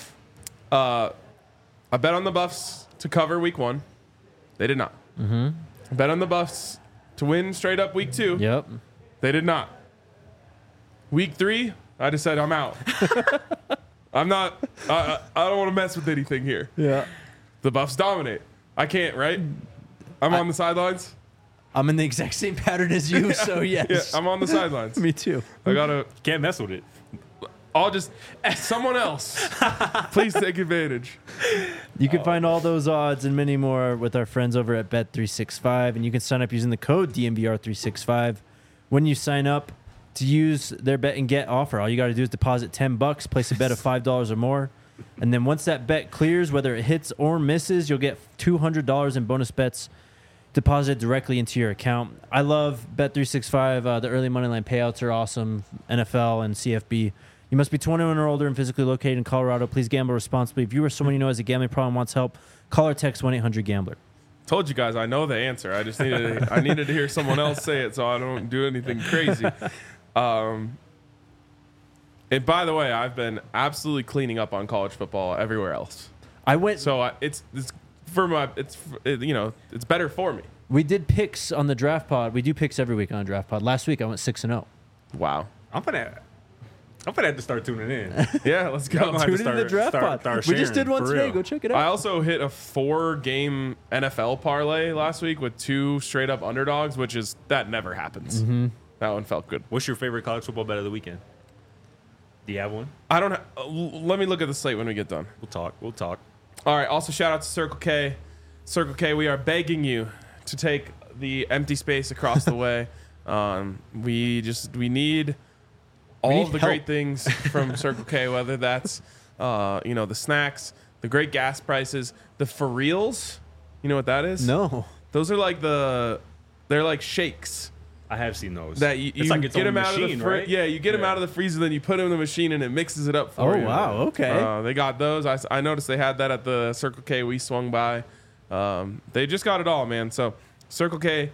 uh, I bet on the Buffs to cover week one. They did not. Mm-hmm. I bet on the Buffs to win straight up week two. Yep. They did not. Week three, I just said I'm out. I'm not. I, I, I don't want to mess with anything here. Yeah. The Buffs dominate. I can't, right? I'm on the sidelines. I'm in the exact same pattern as you, so Yeah, yes. I'm on the sidelines. Me too. I gotta. Can't mess with it. I'll just someone else. Please take advantage. You can find all those odds and many more with our friends over at Bet three sixty-five, and you can sign up using the code D M V R three sixty-five. When you sign up to use their bet and get offer, all you got to do is deposit ten bucks, place a bet of five dollars or more, and then once that bet clears, whether it hits or misses, you'll get two hundred dollars in bonus bets deposited directly into your account. I love Bet three sixty-five. Uh, the early money line payouts are awesome. N F L and C F B. You must be twenty-one or older and physically located in Colorado. Please gamble responsibly. If you or someone you know has a gambling problem and wants help, call or text one eight hundred gambler. Told you guys I know the answer. I just needed I needed to hear someone else say it so I don't do anything crazy. Um, and by the way, I've been absolutely cleaning up on college football everywhere else. I went. So I, it's it's for my it's it, you know it's better for me. We did picks on the draft pod. We do picks every week on draft pod. Last week I went six and zero. Wow. I'm gonna. I'm gonna have to start tuning in. Yeah, let's Y'all go. gonna have Tune to into the start- draft start- pod. start We just sharing, did one for today. real. Go check it I out. also hit a four-game N F L parlay last week with two straight-up underdogs, which is that never happens. Mm-hmm. That one felt good. What's your favorite college football bet of the weekend? Do you have one? I don't. Ha- uh, l- let me look at the slate when we get done. We'll talk. We'll talk. All right. Also, shout out to Circle K. Circle K, we are begging you to take the empty space across the way. Um, we just we need all need of the help. great things from Circle K, whether that's uh, you know the snacks, the great gas prices, the for reals. You know what that is? No. Those are like the they're like shakes I have seen those. that you, it's you like its get own them out machine, of the fr- right? yeah you get them Yeah. out of the freezer, then you put them in the machine and it mixes it up for Oh, you. wow. Okay. Uh, they got those. I, s- I noticed they had that at the Circle K we swung by. Um, they just got it all, man. So Circle K.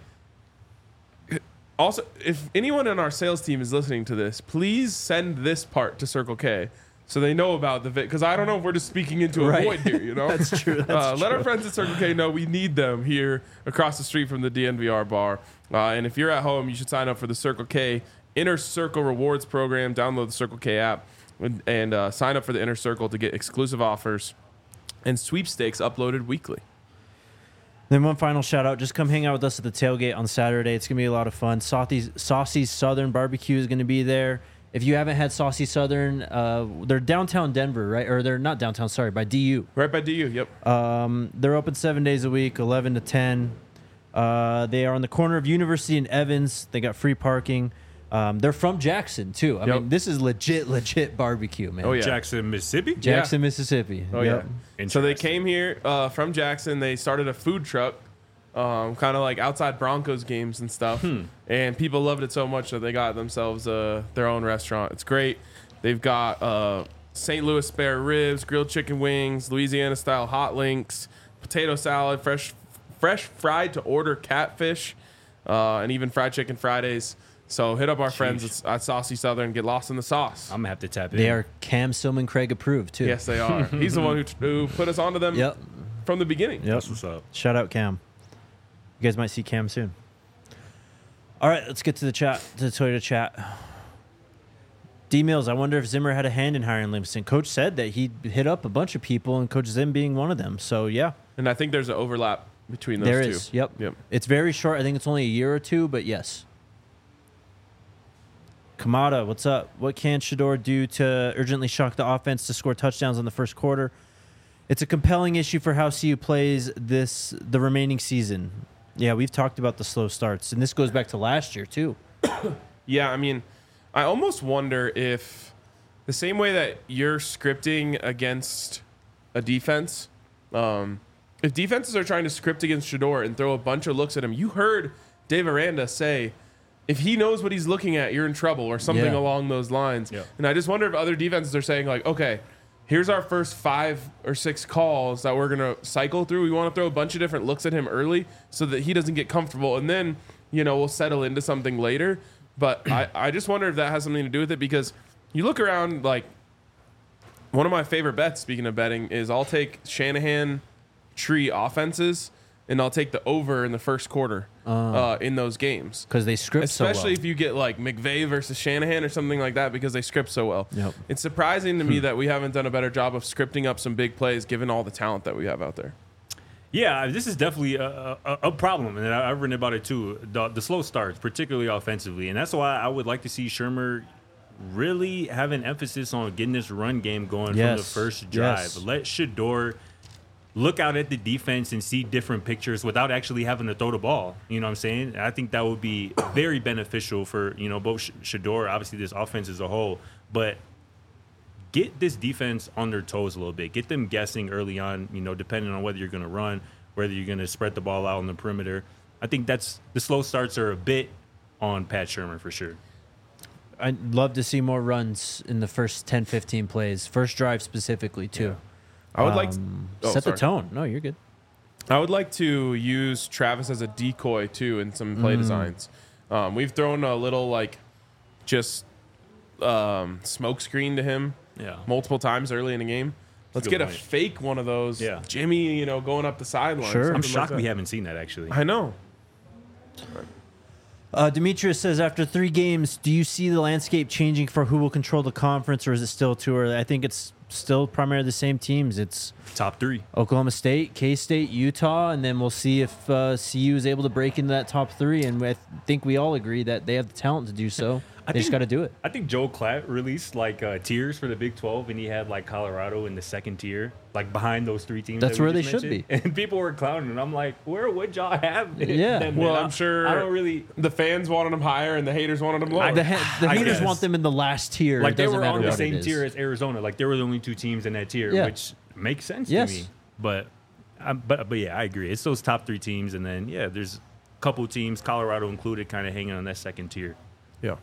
Also, if anyone in our sales team is listening to this, please send this part to Circle K so they know about the because I don't know if we're just speaking into a Right. void here. You know, That's true. That's uh, Let our true. friends at Circle K know we need them here across the street from the D N V R bar. Uh, and if you're at home, you should sign up for the Circle K Inner Circle Rewards Program. Download the Circle K app and, and uh, sign up for the Inner Circle to get exclusive offers and sweepstakes uploaded weekly. Then one final shout out. Just come hang out with us at the tailgate on Saturday. It's going to be a lot of fun. Saucy's, Saucy's Southern Barbecue is going to be there. If you haven't had Saucy Southern, uh, they're downtown Denver, right? Or they're not downtown, sorry, by D U. Right by D U, yep. Um, they're open seven days a week, eleven to ten. Uh, they are on the corner of University and Evans. They got free parking. Um, they're from Jackson, too. I Yep. mean, this is legit, legit barbecue, man. Oh, yeah. Jackson, Mississippi. Jackson, Mississippi. Oh, Yep. yeah. So they Interesting. came here uh, from Jackson. They started a food truck, um, kind of like outside Broncos games and stuff. And people loved it so much that they got themselves uh, their own restaurant. It's great. They've got uh, Saint Louis spare ribs, grilled chicken wings, Louisiana style hot links, potato salad, fresh, fresh fried to order catfish, uh, and even fried chicken Fridays. So hit up our friends at, at Saucy Southern. Get lost in the sauce. I'm gonna have to tap in. They are Cam Silman Craig approved, too. Yes, they are. He's the one who, who put us onto them Yep. from the beginning. Yep. That's what's up. Shout out Cam. You guys might see Cam soon. All right, let's get to the chat, to the Toyota chat. D Mills, I wonder if Zimmer had a hand in hiring Livingston. Coach said that he hit up a bunch of people, and Coach Zim being one of them. So yeah, And I think there's an overlap between those there two. is. Yep. Yep. It's very short. I think it's only a year or two, but yes. Kamada, what's up? What can Shador do to urgently shock the offense to score touchdowns in the first quarter? It's a compelling issue for how C U plays this the remaining season. Yeah, we've talked about the slow starts, and this goes back to last year too. Yeah, I mean, I almost wonder if the same way that you're scripting against a defense, um, if defenses are trying to script against Shador and throw a bunch of looks at him, you heard Dave Aranda say, if he knows what he's looking at, you're in trouble, or something Yeah. along those lines. Yeah. And I just wonder if other defenses are saying, like, okay, here's our first five or six calls that we're going to cycle through. We want to throw a bunch of different looks at him early so that he doesn't get comfortable. And then, you know, we'll settle into something later. But I, I just wonder if that has something to do with it, because you look around, like, one of my favorite bets, speaking of betting, is I'll take Shanahan tree offenses and I'll take the over in the first quarter uh, in those games. Because they script Especially so well. if you get like McVay versus Shanahan or something like that, because they script so well. Yep. It's surprising to me that we haven't done a better job of scripting up some big plays given all the talent that we have out there. Yeah, this is definitely a, a, a problem, and I- I've written about it too. The, the slow starts, particularly offensively, and that's why I would like to see Shermer really have an emphasis on getting this run game going from the Yes, first drive. yes. Let Shador look out at the defense and see different pictures without actually having to throw the ball. You know what I'm saying? I think that would be very beneficial for, you know, both Sh- Shador, obviously this offense as a whole, but get this defense on their toes a little bit. Get them guessing early on, you know, depending on whether you're going to run, whether you're going to spread the ball out on the perimeter. I think that's the slow starts are a bit on Pat Shermer for sure. I'd love to see more runs in the first ten, fifteen plays. First drive specifically, too. I would like to, Um, oh, set sorry. the tone. No, you're good. I would like to use Travis as a decoy too in some Mm. play designs. Um, we've thrown a little like just um, smoke screen to him Yeah. multiple times early in the game. Let's a get good a point. fake one of those. Yeah. Jimmy, you know, going up the sideline. Sure. I'm something shocked like we that. haven't seen that actually. I know. Uh, Demetrius says, after three games, do you see the landscape changing for who will control the conference, or is it still too early? I think it's still primarily the same teams. It's Top three. Oklahoma State, K-State, Utah, and then we'll see if uh, C U is able to break into that top three. And I think we all agree that they have the talent to do so. I They just think- got to do it. I think Joe Klatt released like uh, tiers for the Big twelve, and he had like Colorado in the second tier, like behind those three teams. That's that we where just they should mentioned. And people were clowning, and I'm like, where would y'all have it? Yeah. them Well, in? I'm I- sure I don't really. the fans wanted them higher and the haters wanted them lower. The, ha- the I haters guess. want them in the last tier. Like it they doesn't were matter on the what same it is. tier as Arizona. Like they were the only two teams in that tier, Yeah. which makes sense Yes. to me. But, um, but but yeah, I agree. It's those top three teams, and then yeah, there's a couple teams, Colorado included, kind of hanging on that second tier. Yeah.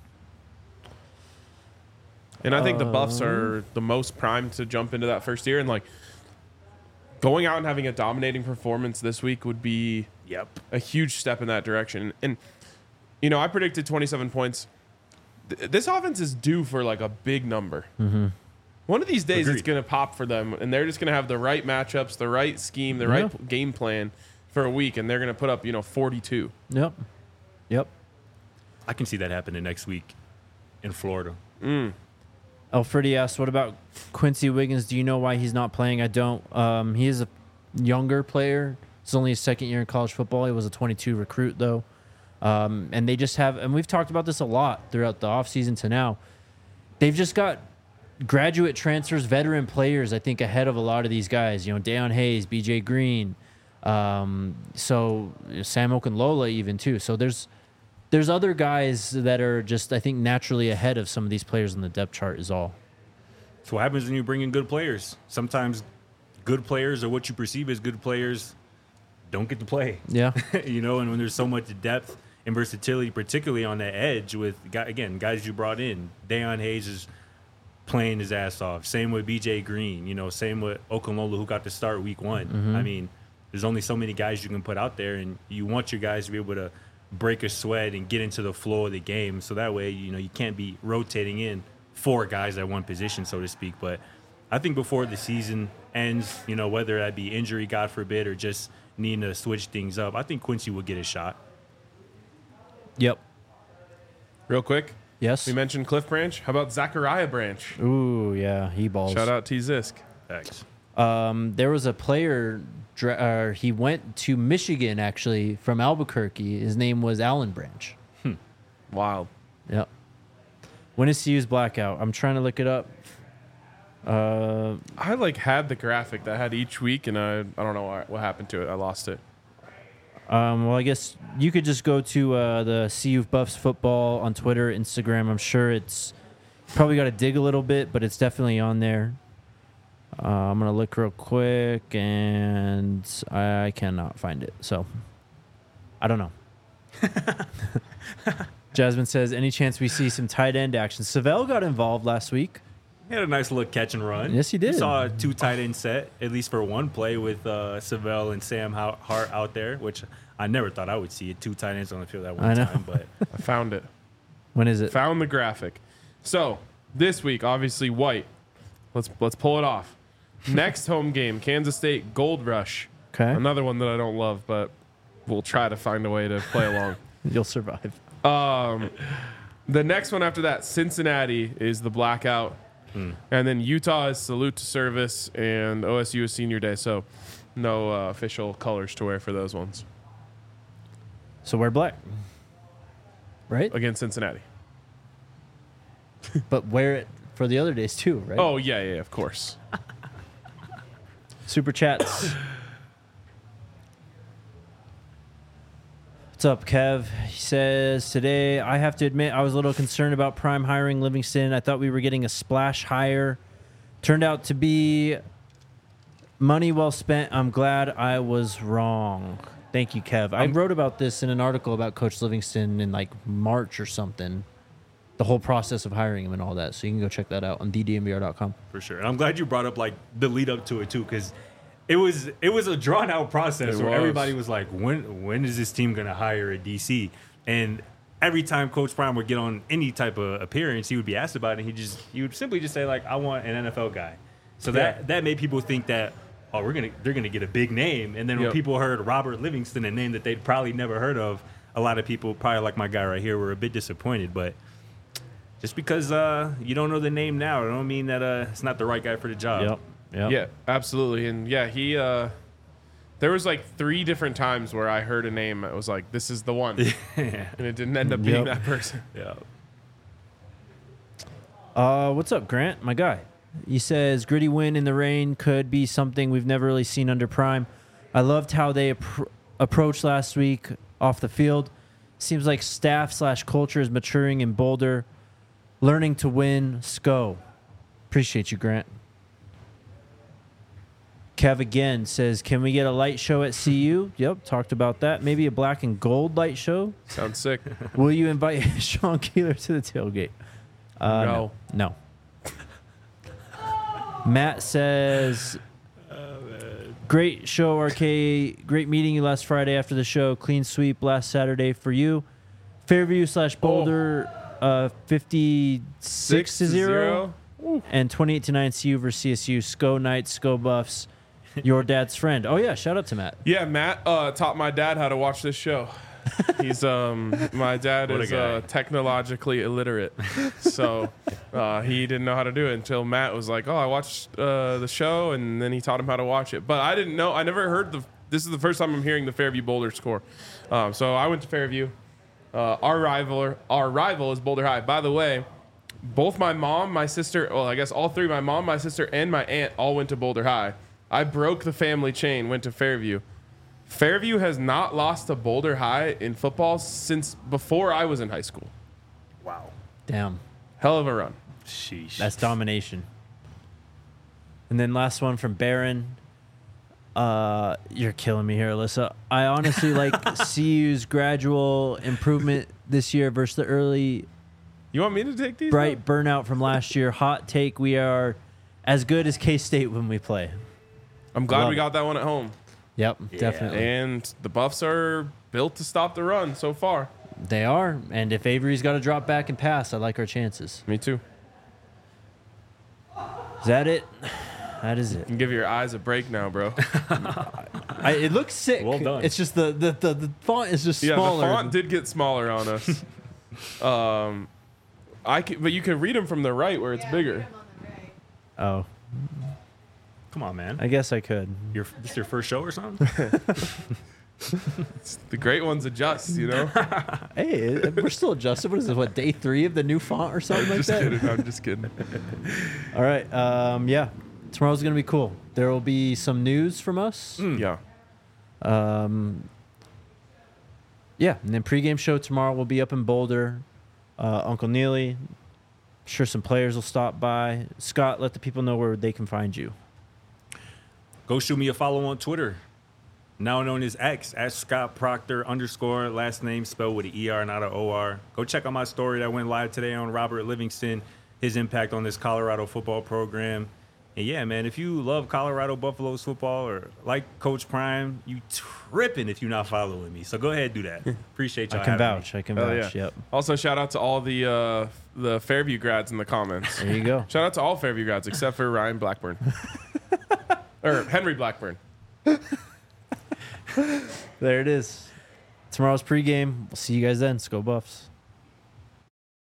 And I think the Buffs Um, are the most primed to jump into that first year. And, like, going out and having a dominating performance this week would be Yep. a huge step in that direction. And, you know, I predicted twenty-seven points. Th- this offense is due for, like, a big number. Mm-hmm. One of these days, Agreed. it's going to pop for them, and they're just going to have the right matchups, the right scheme, the Yeah. right p- game plan for a week, and they're going to put up, you know, forty-two. Yep. Yep. I can see that happening next week in Florida. Alfredi asks, what about Quincy Wiggins? Do you know why he's not playing? I don't. Um, he is a younger player. It's only his second year in college football. He was a twenty-two recruit, though. Um, and they just have, and we've talked about this a lot throughout the offseason to now. They've just got graduate transfers, veteran players, I think, ahead of a lot of these guys. You know, Deion Hayes, B J Green, um, so Sam Okunlola even, too. So there's there's other guys that are just, I think, naturally ahead of some of these players on the depth chart is all. That's what happens when you bring in good players. Sometimes good players, or what you perceive as good players, don't get to play. Yeah. You know, and when there's so much depth and versatility, particularly on the edge with, gu- again, guys you brought in. Deion Hayes is playing his ass off. Same with B J Green. You know, same with Okunlola, who got to start week one. I mean, there's only so many guys you can put out there, and you want your guys to be able to break a sweat and get into the flow of the game. So that way, you know, you can't be rotating in four guys at one position, so to speak. But I think before the season ends, you know, whether that be injury, God forbid, or just needing to switch things up, I think Quincy will get a shot. Yep. Real quick, Yes. we mentioned Cliff Branch. How about Zachariah Branch? Ooh, yeah. He balls. Shout out T Zisk. Thanks. Um, there was a player, dra- uh, he went to Michigan, actually, from Albuquerque. His name was Alan Branch. Wild. Yep. When is C U's blackout? I'm trying to look it up. Uh, I like had the graphic that had each week, and I I don't know what, what happened to it. I lost it. um, well, I guess you could just go to uh, the C U Buffs football on Twitter, Instagram. I'm sure it's probably got to dig a little bit, but it's definitely on there. Uh, I'm going to look real quick, and I cannot find it. So, I don't know. Jasmine says, any chance we see some tight end action? Savell got involved last week. He had a nice little catch and run. Yes, he did. You saw a two tight end set, at least for one play, with uh, Savell and Sam Ho- Hart out there, which I never thought I would see it. Two tight ends on the field at one I know. time. But I found it. When is it? Found the graphic. So this week, obviously white. Let's let's pull it off. Next home game, Kansas State Gold Rush. Okay. Another one that I don't love, but we'll try to find a way to play along. You'll survive. Um, the next one after that, Cincinnati is the blackout, and then Utah is salute to service, and O S U is senior day. So no uh, official colors to wear for those ones So we're black. Right? against Cincinnati. But wear it for the other days too, right? Oh yeah, yeah, of course. Super chats. What's up, Kev? He says, today I have to admit I was a little concerned about Prime hiring Livingston. I thought we were getting a splash hire. Turned out to be money well spent. I'm glad I was wrong. Thank you, Kev. I wrote about this in an article about Coach Livingston in like March or something. The whole process of hiring him and all that. So you can go check that out on the d n b r dot com. for sure. And I'm glad you brought up like the lead up to it too, because it was it was a drawn out process It where was. everybody was like, when when is this team gonna hire a D C? And every time Coach Prime would get on any type of appearance, he would be asked about it. And he just he would simply just say like, I want an N F L guy. So that Yeah. that made people think that, oh, we're gonna they're gonna get a big name. And then when Yep. people heard Robert Livingston, a name that they'd probably never heard of, a lot of people, probably like my guy right here, were a bit disappointed. But just because uh, you don't know the name now, it don't mean that uh, it's not the right guy for the job. Yep. Yep. Yeah, absolutely. And yeah, he uh there was like three different times where I heard a name that was like, this is the one. Yeah. And it didn't end up being Yep. that person. Yeah. Uh, what's up, Grant? My guy. He says gritty win in the rain could be something we've never really seen under Prime. I loved how they appro- approached last week off the field. Seems like staff slash culture is maturing in Boulder, learning to win. Sco. Appreciate you, Grant. Kev again says, can we get a light show at C U? Yep, talked about that. Maybe a black and gold light show. Sounds sick. Will you invite Sean Keeler to the tailgate? Uh, No. No. Matt says, great show, R K. Great meeting you last Friday after the show. Clean sweep last Saturday for you. Fairview slash Boulder, uh, fifty-six to zero. And twenty-eight to nine C U versus C S U. Sco Knights, Sco Buffs. Your dad's friend. Oh, yeah. Shout out to Matt. Yeah, Matt uh, taught my dad how to watch this show. He's um my dad What a is guy. uh, technologically illiterate, so uh, he didn't know how to do it until Matt was like, "Oh, I watched uh, the show," and then he taught him how to watch it. But I didn't know. I never heard the. This is the first time I'm hearing the Fairview Boulder score. Um, so I went to Fairview. Uh, our rival, our rival is Boulder High. By the way, both my mom, my sister, well, I guess all three, my mom, my sister, and my aunt all went to Boulder High. I broke the family chain, went to Fairview. Fairview has not lost to Boulder High in football since before I was in high school. Wow. Damn. Hell of a run. Sheesh. That's domination. And then last one from Barron. Uh, you're killing me here, Alyssa. I honestly like C U's gradual improvement this year versus the early You want me to take these? bright burnout from last year. Hot take, we are as good as K-State when we play. I'm glad Love we it. got that one at home. Yep, Yeah. definitely. And the Buffs are built to stop the run so far. They are. And if Avery's got to drop back and pass, I like our chances. Me too. Is that it? That is it. You can give your eyes a break now, bro. I, it looks sick. Well done. It's just the, the, the, the font is just Yeah, smaller. the font did get smaller on us. um, I can, but you can read them from the right where it's bigger. Oh, Come on, man. I guess I could. Your, this your first show or something? The great ones adjust, you know. Hey, we're still adjusted. What is it? What, day three of the new font or something like Just that? kidding. I'm just kidding. All right. Um, yeah. Tomorrow's going to be cool. There will be some news from us. Yeah. Um, yeah. And then pregame show tomorrow will be up in Boulder. Uh, Uncle Neely. Sure some players will stop by. Scott, let the people know where they can find you. Go shoot me a follow on Twitter. Now known as X, at Scott Proctor underscore, last name spelled with an E R, not an O R. Go check out my story that went live today on Robert Livingston, his impact on this Colorado football program. And yeah, man, if you love Colorado Buffaloes football or like Coach Prime, you tripping if you're not following me. So go ahead and do that. Appreciate y'all I can having me. vouch. I can Oh, vouch. yeah. Yep. Also, shout out to all the uh, the Fairview grads in the comments. There you go. Shout out to all Fairview grads except for Ryan Blackburn. Or Henry Blackburn. There it is. Tomorrow's pregame. We'll see you guys then. Let's go Buffs.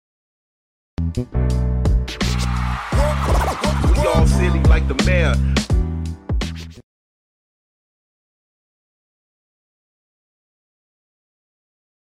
We all silly like the mayor.